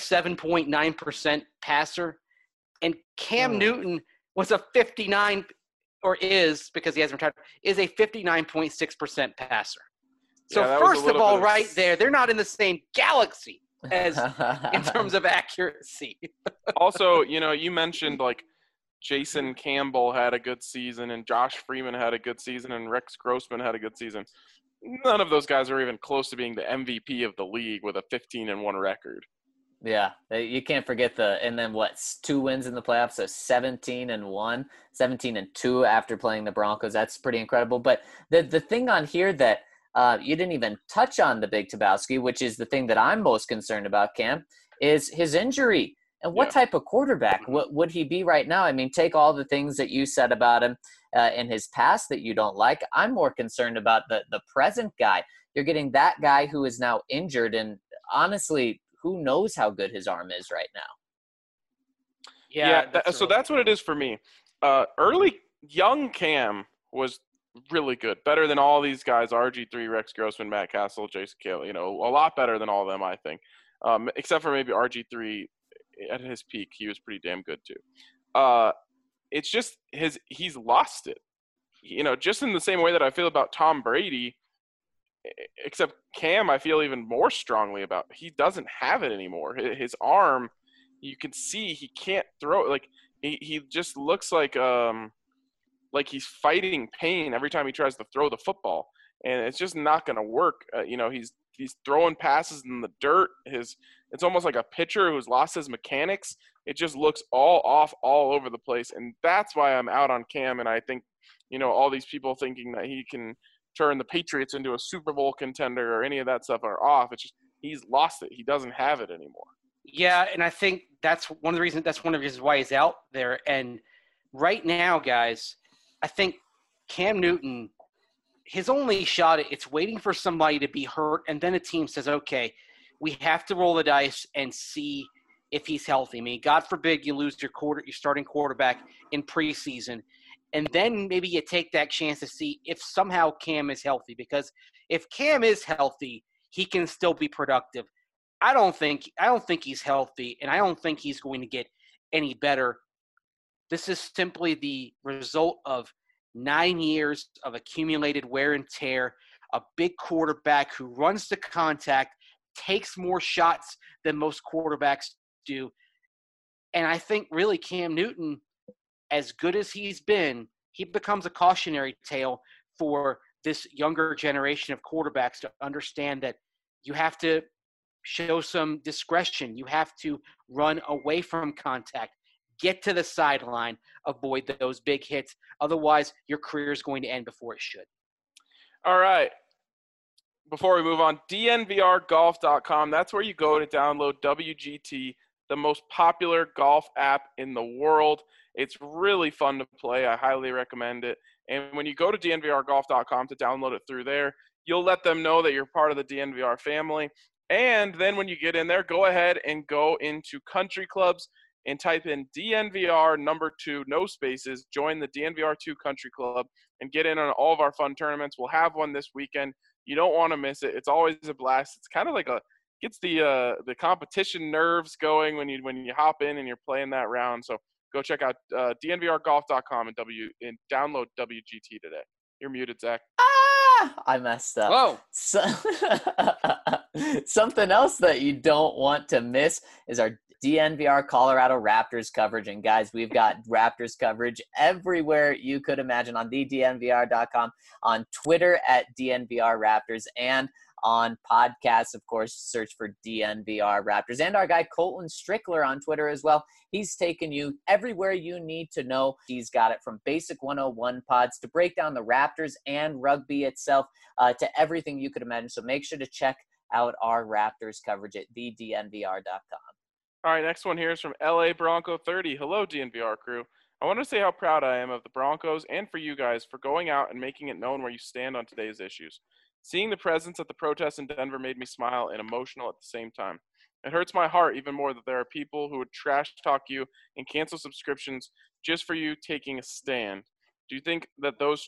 47.9% passer, and Cam Newton was a 59, or is, because he hasn't retired, is a 59.6% passer. So
Yeah,
first of all, right there, they're not in the same galaxy as in terms of accuracy.
Also, you mentioned like Jason Campbell had a good season and Josh Freeman had a good season and Rex Grossman had a good season. None of those guys are even close to being the MVP of the league with a 15-1 record.
Yeah, you can't forget and then 2 wins in the playoffs, so 17-1, 17-2 after playing the Broncos. That's pretty incredible. But the thing on here that you didn't even touch on, the Big Tabowski, which is the thing that I'm most concerned about, Cam, is his injury. And what type of quarterback would he be right now? I mean, take all the things that you said about him in his past that you don't like. I'm more concerned about the present guy. You're getting that guy who is now injured, and honestly, who knows how good his arm is right now.
Yeah, so that's what it is for me. Early young Cam was really good, better than all these guys, RG3, Rex Grossman, Matt Castle, Jason Campbell, a lot better than all of them, I think. Except for maybe RG3 at his peak, he was pretty damn good too. It's just he's lost it. Just in the same way that I feel about Tom Brady, except Cam, I feel even more strongly about. He doesn't have it anymore. His arm, you can see he can't throw it. Like he just looks like he's fighting pain every time he tries to throw the football, and it's just not going to work. He's throwing passes in the dirt. It's almost like a pitcher who's lost his mechanics. It just looks all off all over the place, and that's why I'm out on Cam. And I think, all these people thinking that he can turn the Patriots into a Super Bowl contender or any of that stuff are off. It's just he's lost it. He doesn't have it anymore.
Yeah, and I think that's one of the reasons why he's out there. And right now, guys, I think Cam Newton, his only shot, it's waiting for somebody to be hurt, and then a team says, okay, we have to roll the dice and see if he's healthy. I mean, God forbid you lose your starting quarterback in preseason, and then maybe you take that chance to see if somehow Cam is healthy, because if Cam is healthy, he can still be productive. I don't think he's healthy, and I don't think he's going to get any better. This is simply the result of 9 years of accumulated wear and tear, a big quarterback who runs to contact, takes more shots than most quarterbacks do. And I think really Cam Newton, as good as he's been, he becomes a cautionary tale for this younger generation of quarterbacks to understand that you have to show some discretion. You have to run away from contact, get to the sideline, avoid those big hits. Otherwise, your career is going to end before it should.
All right. Before we move on, dnvrgolf.com. That's where you go to download WGT, the most popular golf app in the world. It's really fun to play. I highly recommend it. And when you go to dnvrgolf.com to download it through there, you'll let them know that you're part of the DNVR family. And then when you get in there, go ahead and go into country clubs. and type in DNVR number 2, no spaces. Join the DNVR 2 Country Club and get in on all of our fun tournaments. We'll have one this weekend. You don't want to miss it. It's always a blast. It's kind of like gets the competition nerves going when you hop in and you're playing that round. So go check out dnvrgolf.com and download WGT today. You're muted, Zach.
I messed up.
Whoa.
Something else that you don't want to miss is our DNVR Colorado Raptors coverage. And guys, we've got Raptors coverage everywhere you could imagine on thednvr.com, on Twitter at DNVR Raptors, and on podcasts, of course, search for DNVR Raptors. And our guy Colton Strickler on Twitter as well. He's taken you everywhere you need to know. He's got it from Basic 101 pods to break down the Raptors and rugby itself, to everything you could imagine. So make sure to check out our Raptors coverage at thednvr.com.
All right, next one here is from LA Bronco 30. Hello, DNVR crew. I want to say how proud I am of the Broncos and for you guys for going out and making it known where you stand on today's issues. Seeing the presence at the protests in Denver made me smile and emotional at the same time. It hurts my heart even more that there are people who would trash talk you and cancel subscriptions just for you taking a stand. Do you think that those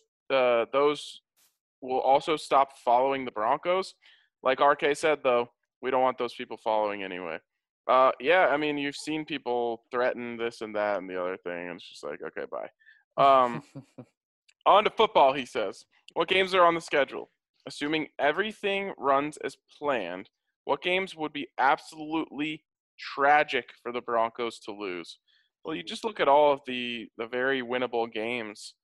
will also stop following the Broncos? Like RK said, though, we don't want those people following anyway. Yeah, I mean, you've seen people threaten this and that and the other thing, and it's just like, okay, bye. On to football, he says. What games are on the schedule? Assuming everything runs as planned, what games would be absolutely tragic for the Broncos to lose? Well, you just look at all of the very winnable games,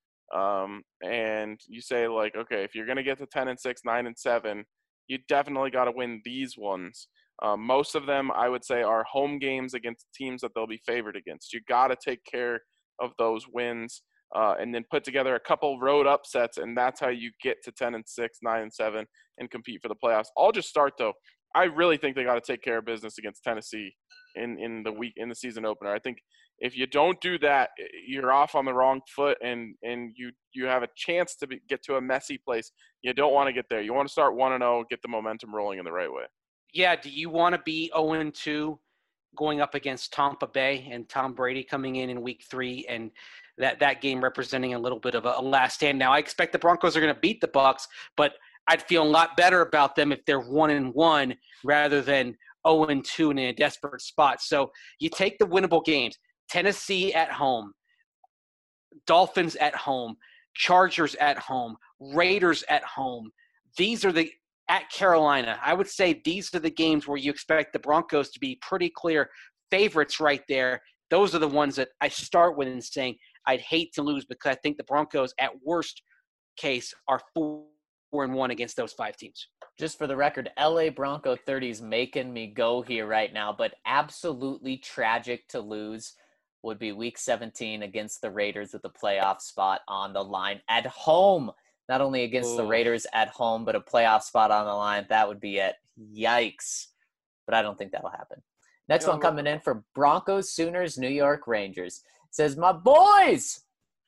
and you say, like, okay, if you're going to get to 10-6, 9-7, you definitely got to win these ones. Most of them, I would say, are home games against teams that they'll be favored against. You got to take care of those wins, and then put together a couple road upsets, and that's how you get to 10-6, 9-7, and compete for the playoffs. I'll just start though. I really think they got to take care of business against Tennessee in the season opener. I think if you don't do that, you're off on the wrong foot, and you have a chance to get to a messy place. You don't want to get there. You want to start 1-0, get the momentum rolling in the right way.
Yeah, do you want to be 0-2 going up against Tampa Bay and Tom Brady coming in week 3 and that game representing a little bit of a last stand? Now, I expect the Broncos are going to beat the Bucs, but I'd feel a lot better about them if they're 1-1 rather than 0-2 and in a desperate spot. So you take the winnable games. Tennessee at home, Dolphins at home, Chargers at home, Raiders at home. These are at Carolina. I would say these are the games where you expect the Broncos to be pretty clear favorites right there. Those are the ones that I start with and saying I'd hate to lose, because I think the Broncos at worst case are 4-1 against those 5 teams.
Just for the record, LA Bronco 30 is making me go here right now, but absolutely tragic to lose would be week 17 against the Raiders with the playoff spot on the line at home. Not only against the Raiders at home, but a playoff spot on the line. That would be it. Yikes. But I don't think that'll happen. Next one coming in for Broncos, Sooners, New York Rangers. It says, my boys!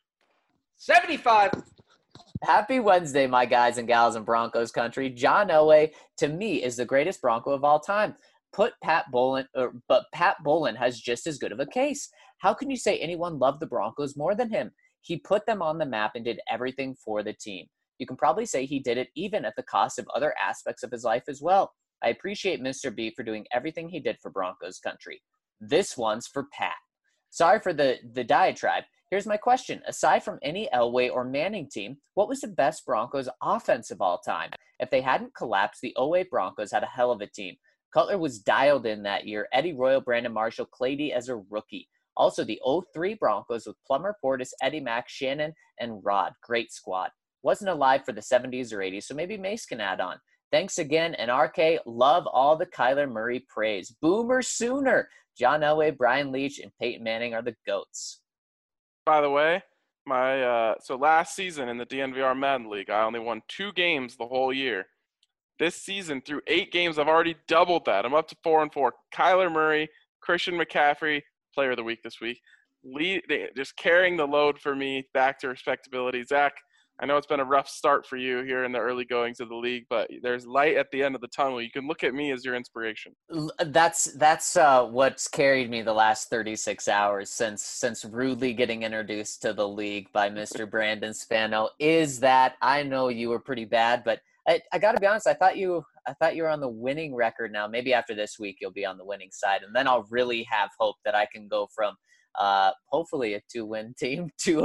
75.
Happy Wednesday, my guys and gals in Broncos country. John Elway, to me, is the greatest Bronco of all time. But Pat Bowlen has just as good of a case. How can you say anyone loved the Broncos more than him? He put them on the map and did everything for the team. You can probably say he did it even at the cost of other aspects of his life as well. I appreciate Mr. B for doing everything he did for Broncos country. This one's for Pat. Sorry for the diatribe. Here's my question. Aside from any Elway or Manning team, what was the best Broncos offense of all time? If they hadn't collapsed, the 08 Broncos had a hell of a team. Cutler was dialed in that year. Eddie Royal, Brandon Marshall, Clady as a rookie. Also, the 03 Broncos with Plummer, Portis, Eddie Mack, Shannon, and Rod. Great squad. Wasn't alive for the 70s or 80s, so maybe Mace can add on. Thanks again, and RK, love all the Kyler Murray praise. Boomer Sooner. John Elway, Brian Leach, and Peyton Manning are the GOATs.
By the way, so last season in the DNVR Madden League, I only won 2 games the whole year. This season, through 8 games, I've already doubled that. I'm up to 4-4. Kyler Murray, Christian McCaffrey, Player of the Week this week, just carrying the load for me back to respectability. Zach, I know it's been a rough start for you here in the early goings of the league, but there's light at the end of the tunnel. You can look at me as your inspiration.
That's what's carried me the last 36 hours since rudely getting introduced to the league by Mr. Brandon Spano. Is that I know you were pretty bad, but I got to be honest. I thought you were on the winning record. Now maybe after this week you'll be on the winning side, and then I'll really have hope that I can go from hopefully a 2-win team to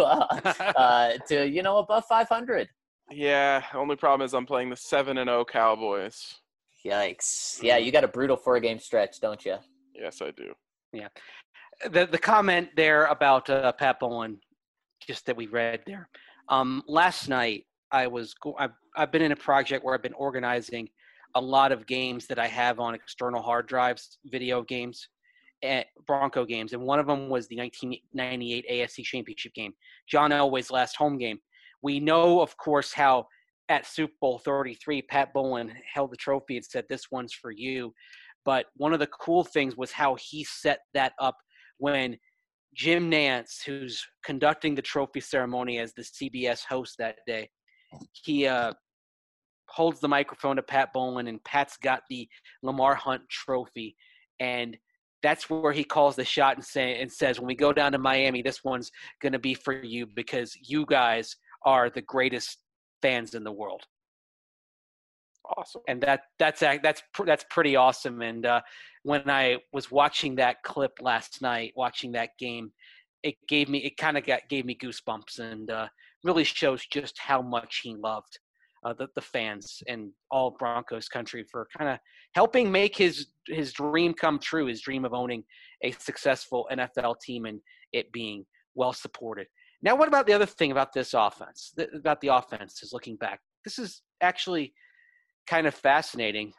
above 500.
Yeah, only problem is I'm playing the 7-0 Cowboys.
Yikes! Yeah, you got a brutal 4-game stretch, don't you?
Yes, I do.
Yeah. The comment there about Pat Bowlen, just that we read there. Last night I've been in a project where I've been organizing a lot of games that I have on external hard drives, video games, and Bronco games, and one of them was the 1998 AFC Championship game, John Elway's last home game. We know, of course, how at Super Bowl 33, Pat Bowlen held the trophy and said, "This one's for you." But one of the cool things was how he set that up when Jim Nantz, who's conducting the trophy ceremony as the CBS host that day, he holds the microphone to Pat Bowlen, and Pat's got the Lamar Hunt trophy, and that's where he calls the shot and says, when we go down to Miami, this one's going to be for you because you guys are the greatest fans in the world.
Awesome.
And that's pretty awesome. And when I was watching that clip last night, watching that game, it gave me goosebumps, and really shows just how much he loved the fans and all Broncos country for kind of helping make his dream come true, his dream of owning a successful NFL team and it being well supported. Now, what about the other thing about this offense, about the offense is looking back? This is actually kind of fascinating.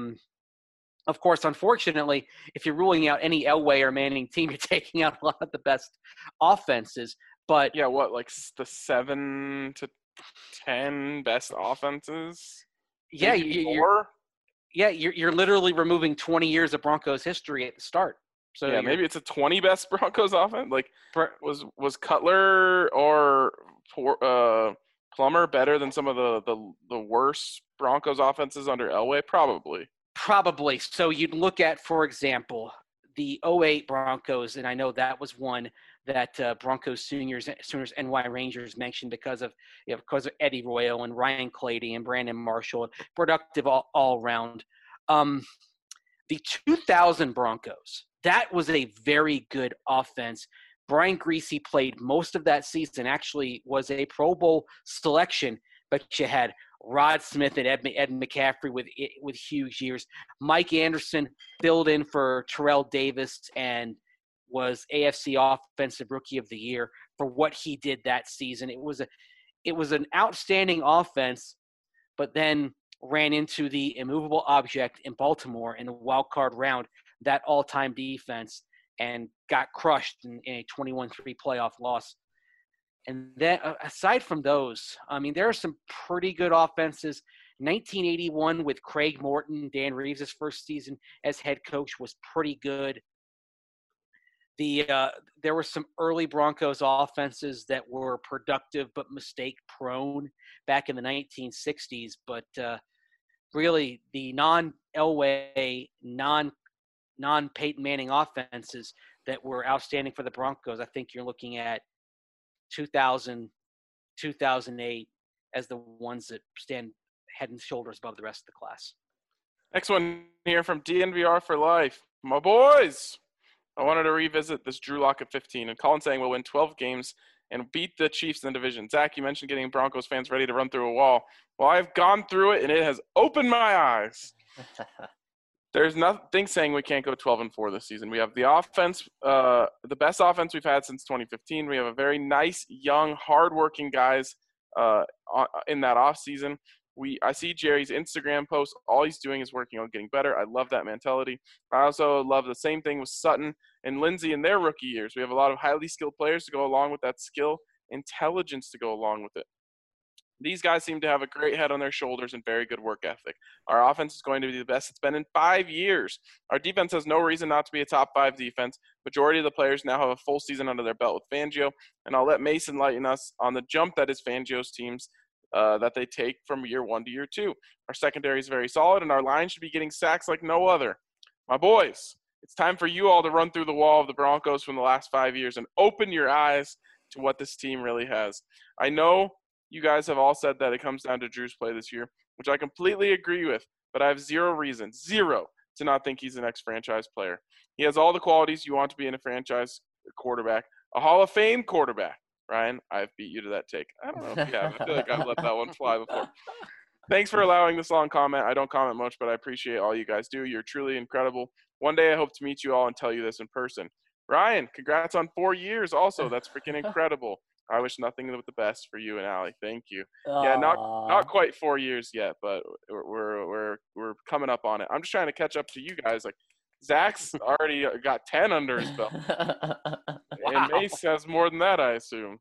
Of course, unfortunately, if you're ruling out any Elway or Manning team, you're taking out a lot of the best offenses. But
yeah, like the 7 to 10 best offenses?
Yeah, you're literally removing 20 years of Broncos history at the start. So
yeah, maybe it's a 20 best Broncos offense. Like, was Cutler or Plummer better than some of the worst Broncos offenses under Elway? Probably.
So you'd look at, for example, the 08 Broncos, and I know that was one that Broncos Sooners NY Rangers mentioned because of Eddie Royal and Ryan Clady and Brandon Marshall, productive all around. The 2000 Broncos, that was a very good offense. Brian Griese played most of that season, actually was a Pro Bowl selection, but you had Rod Smith and Ed McCaffrey with huge years. Mike Anderson filled in for Terrell Davis and was AFC Offensive Rookie of the Year for what he did that season. It was an outstanding offense, but then ran into the immovable object in Baltimore in the wild card round, that all-time defense, and got crushed in a 21-3 playoff loss. And then aside from those, I mean, there are some pretty good offenses. 1981 with Craig Morton, Dan Reeves' first season as head coach, was pretty good. There were some early Broncos offenses that were productive but mistake-prone back in the 1960s. But really, the non-Elway, non-Peyton Manning offenses that were outstanding for the Broncos, I think you're looking at 2000, 2008 as the ones that stand head and shoulders above the rest of the class.
Next one here from DNVR for life. My boys, I wanted to revisit this Drew Lock at 15. And Colin saying we'll win 12 games and beat the Chiefs in the division. Zach, you mentioned getting Broncos fans ready to run through a wall. Well, I've gone through it, and it has opened my eyes. There's nothing saying we can't go 12-4 this season. We have the offense, the best offense we've had since 2015. We have a very nice, young, hardworking guys in that offseason. I see Jerry's Instagram posts. All he's doing is working on getting better. I love that mentality. I also love the same thing with Sutton and Lindsey in their rookie years. We have a lot of highly skilled players to go along with that skill, intelligence to go along with it. These guys seem to have a great head on their shoulders and very good work ethic. Our offense is going to be the best it's been in 5 years. Our defense has no reason not to be a top 5 defense. Majority of the players now have a full season under their belt with Fangio, and I'll let Mason lighten us on the jump that is Fangio's teams that they take from year 1 to year 2. Our secondary is very solid, and our line should be getting sacks like no other. My boys, it's time for you all to run through the wall of the Broncos from the last 5 years and open your eyes to what this team really has. I know you guys have all said that it comes down to Drew's play this year, which I completely agree with, but I have zero reason, to not think he's the next franchise player. He has all the qualities you want to be in a franchise quarterback, a Hall of Fame quarterback. Ryan, I've beat you to that take. I don't know if you have. I feel like I've let that one fly before. Thanks for allowing this long comment. I don't comment much, but I appreciate all you guys do. You're truly incredible. One day I hope to meet you all and tell you this in person. Ryan, congrats on 4 years also. That's freaking incredible. I wish nothing but the best for you and Allie. Thank you. Yeah, not quite 4 years yet, but we're coming up on it. I'm just trying to catch up to you guys. Like Zach's already got 10 under his belt, and Mace has more than that, I assume.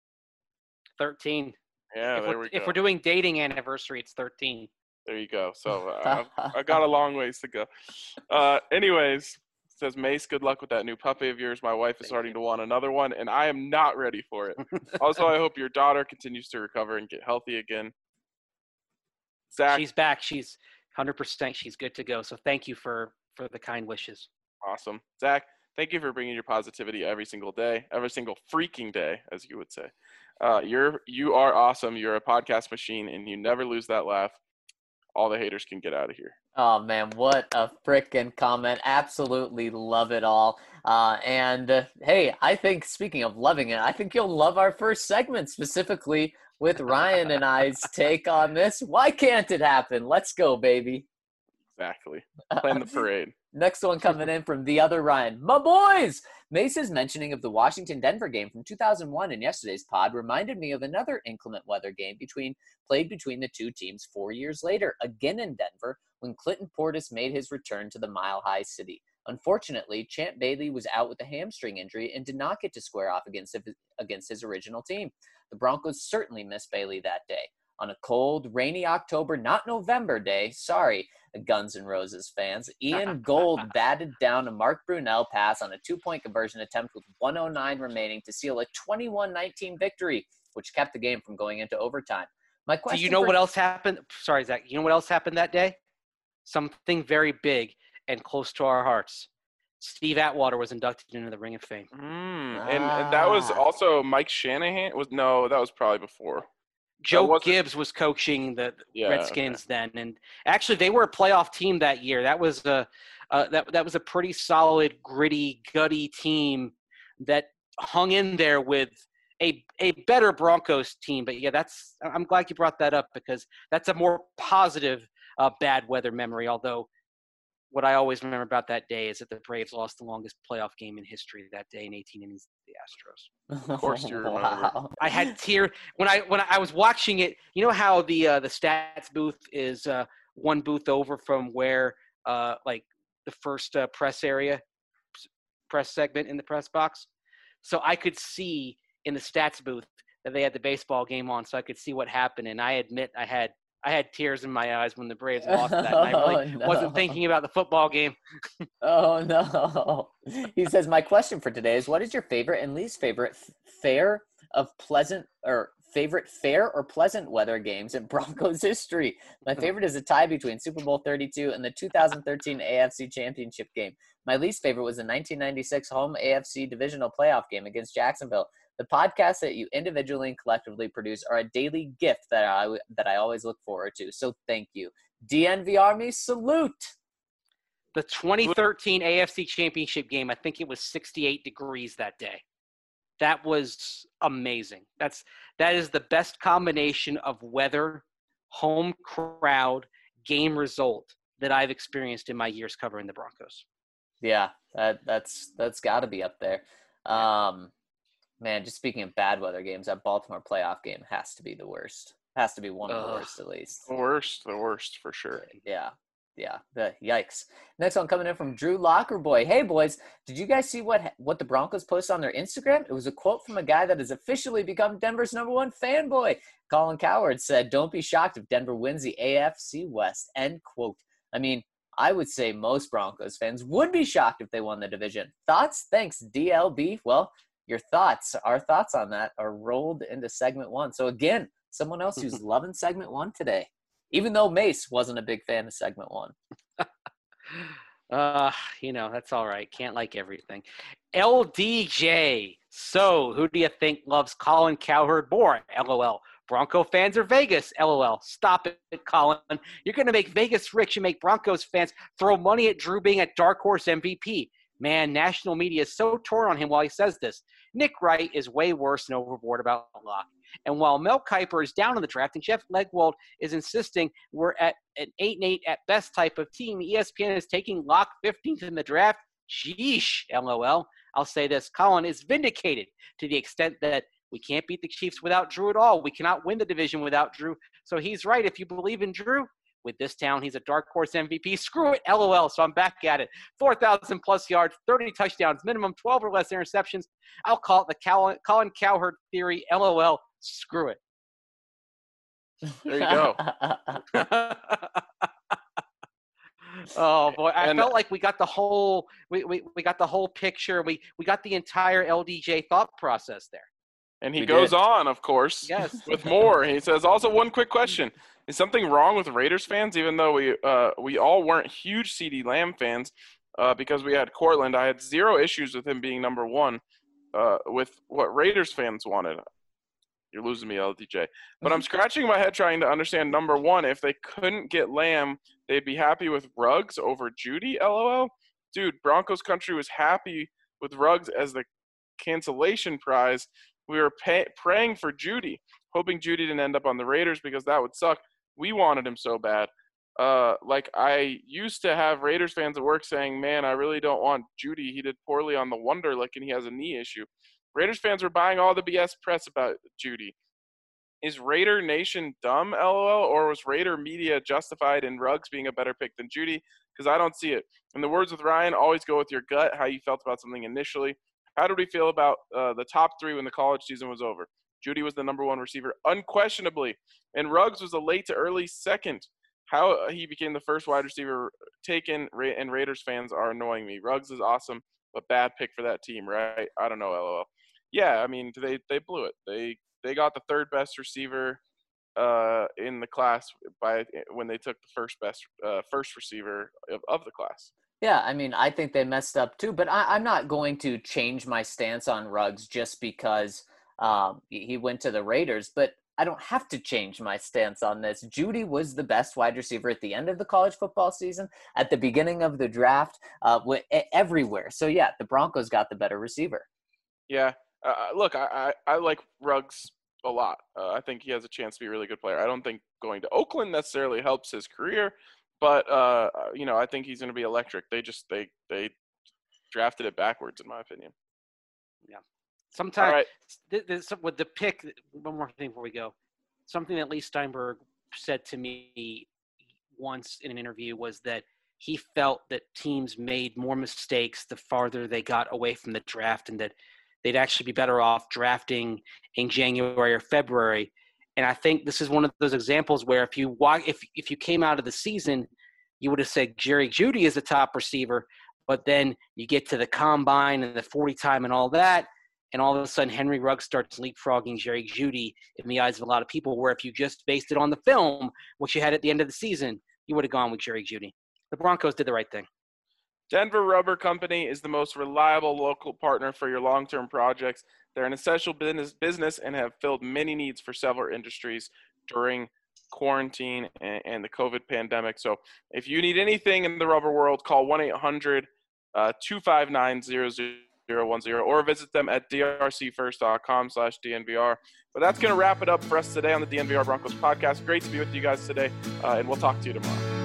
13.
Yeah, there we go.
If we're doing dating anniversary, it's 13.
There you go. So I got a long ways to go. Anyways. Says Mace, good luck with that new puppy of yours. My wife is starting to want another one, and I am not ready for it. Also, I hope your daughter continues to recover and get healthy again. Zach,
she's back. She's 100%. She's good to go. So thank you for the kind wishes.
Awesome. Zach, thank you for bringing your positivity every single day, every single freaking day, as you would say. You are awesome. You're a podcast machine, and you never lose that laugh. All the haters can get out of here.
Oh, man, what a frickin' comment. Absolutely love it all. Hey, I think, speaking of loving it, I think you'll love our first segment, specifically with Ryan and I's take on this. Why can't it happen? Let's go, baby.
Exactly. Playing the parade.
Next one coming in from the other Ryan. My boys! Mace's mentioning of the Washington-Denver game from 2001 in yesterday's pod reminded me of another inclement weather game played between the two teams 4 years later, again in Denver, when Clinton Portis made his return to the Mile High City. Unfortunately, Champ Bailey was out with a hamstring injury and did not get to square off against his original team. The Broncos certainly missed Bailey that day. On a cold, rainy October, not November day, sorry, Guns N' Roses fans, Ian Gold batted down a Mark Brunell pass on a 2-point conversion attempt with 1:09 remaining to seal a 21-19 victory, which kept the game from going into overtime. My question:
Do you know what else happened? Sorry, Zach. You know what else happened that day? Something very big and close to our hearts. Steve Atwater was inducted into the Ring of Fame.
And that was also Mike Shanahan. That was probably before.
Joe Gibbs was coaching the Redskins then, and actually they were a playoff team that year. That was that was a pretty solid, gritty, gutty team that hung in there with a better Broncos team. But yeah, I'm glad you brought that up because that's a more positive bad weather memory. Although what I always remember about that day is that the Braves lost the longest playoff game in history that day in 18 innings to the Astros.
Of course you remember.
Wow.
I had tears when I was watching it. You know how the stats booth is one booth over from where like the first press segment in the press box. So I could see in the stats booth that they had the baseball game on, so I could see what happened. And I admit I had tears in my eyes when the Braves lost that. And I really wasn't thinking about the football game.
Oh, no. He says, my question for today is, what is your favorite and least favorite fair or pleasant weather games in Broncos history? My favorite is a tie between Super Bowl 32 and the 2013 AFC Championship game. My least favorite was the 1996 home AFC divisional playoff game against Jacksonville. The podcasts that you individually and collectively produce are a daily gift that I always look forward to. So thank you. DNV Army, salute.
The 2013 AFC Championship game, I think it was 68 degrees that day. That was amazing. That is the best combination of weather, home crowd, game result that I've experienced in my years covering the Broncos.
Yeah, that's got to be up there. Man, just speaking of bad weather games, that Baltimore playoff game has to be the worst. Has to be one of the worst, at least.
The worst for sure.
Yeah. Yeah, the yikes. Next one coming in from Drew Lockerboy. Hey, boys, did you guys see what the Broncos posted on their Instagram? It was a quote from a guy that has officially become Denver's #1 fanboy. Colin Cowherd said, "Don't be shocked if Denver wins the AFC West," end quote. I mean, I would say most Broncos fans would be shocked if they won the division. Thoughts? Thanks, DLB. Well, our thoughts on that are rolled into segment 1. So again, someone else who's loving segment 1 today, even though Mace wasn't a big fan of segment 1.
That's all right. Can't like everything. LDJ. So, who do you think loves Colin Cowherd more? LOL. Bronco fans or Vegas? LOL. Stop it, Colin. You're going to make Vegas rich and make Broncos fans throw money at Drew being a dark horse MVP. Man, national media is so torn on him while he says this. Nick Wright is way worse and overboard about Locke. And while Mel Kiper is down on the draft and Jeff Legwold is insisting we're at an 8-8 at best type of team, ESPN is taking Locke 15th in the draft. Sheesh, LOL. I'll say this. Colin is vindicated to the extent that we can't beat the Chiefs without Drew at all. We cannot win the division without Drew. So he's right. If you believe in Drew, with this town, he's a dark horse MVP. Screw it, LOL. So I'm back at it. 4,000 plus yards, 30 touchdowns, minimum 12 or less interceptions. I'll call it the Colin Cowherd theory. LOL. Screw it.
There you go.
Oh boy, I felt like we got the whole we got the whole picture. We got the entire LDJ thought process there.
And he goes on, of course,
yes,
with more. He says, also one quick question. Is something wrong with Raiders fans, even though we all weren't huge CeeDee Lamb fans because we had Cortland? I had zero issues with him being #1 with what Raiders fans wanted. You're losing me, LDJ. But I'm scratching my head trying to understand #1. If they couldn't get Lamb, they'd be happy with Ruggs over Judy, LOL? Dude, Broncos country was happy with Ruggs as the cancellation prize. We were praying for Judy, hoping Judy didn't end up on the Raiders because that would suck. We wanted him so bad. I used to have Raiders fans at work saying, man, I really don't want Judy. He did poorly on the Wonderlic and he has a knee issue. Raiders fans were buying all the BS press about Judy. Is Raider Nation dumb, LOL, or was Raider media justified in Ruggs being a better pick than Judy? Because I don't see it. In the words with Ryan, always go with your gut, how you felt about something initially. How did we feel about the top 3 when the college season was over? Judy was the #1 receiver, unquestionably, and Ruggs was a late to early second. How he became the first wide receiver taken, and Raiders fans are annoying me. Ruggs is awesome, but bad pick for that team, right? I don't know, LOL. Yeah, I mean, they blew it. They got the 3rd best receiver in the class when they took the first receiver of the class.
Yeah, I mean, I think they messed up too, but I'm not going to change my stance on Ruggs just because he went to the Raiders, but I don't have to change my stance on this. Judy was the best wide receiver at the end of the college football season, at the beginning of the draft, everywhere. So, yeah, the Broncos got the better receiver.
Yeah. Look, I like Ruggs a lot. I think he has a chance to be a really good player. I don't think going to Oakland necessarily helps his career, but, I think he's going to be electric. They drafted it backwards, in my opinion.
Yeah. Sometimes
right.
With the pick, one more thing before we go. Something that Lee Steinberg said to me once in an interview was that he felt that teams made more mistakes the farther they got away from the draft and that they'd actually be better off drafting in January or February. And I think this is one of those examples where if you came out of the season, you would have said Jerry Jeudy is the top receiver, but then you get to the combine and the 40 time and all that, and all of a sudden Henry Ruggs starts leapfrogging Jerry Jeudy in the eyes of a lot of people, where if you just based it on the film, which you had at the end of the season, you would have gone with Jerry Jeudy. The Broncos did the right thing.
Denver Rubber Company is the most reliable local partner for your long-term projects. They're an essential business and have filled many needs for several industries during quarantine and the COVID pandemic. So if you need anything in the rubber world, call 1-800-259-0010 or visit them at drcfirst.com/DNVR. But that's going to wrap it up for us today on the DNVR Broncos podcast. Great to be with you guys today, and we'll talk to you tomorrow.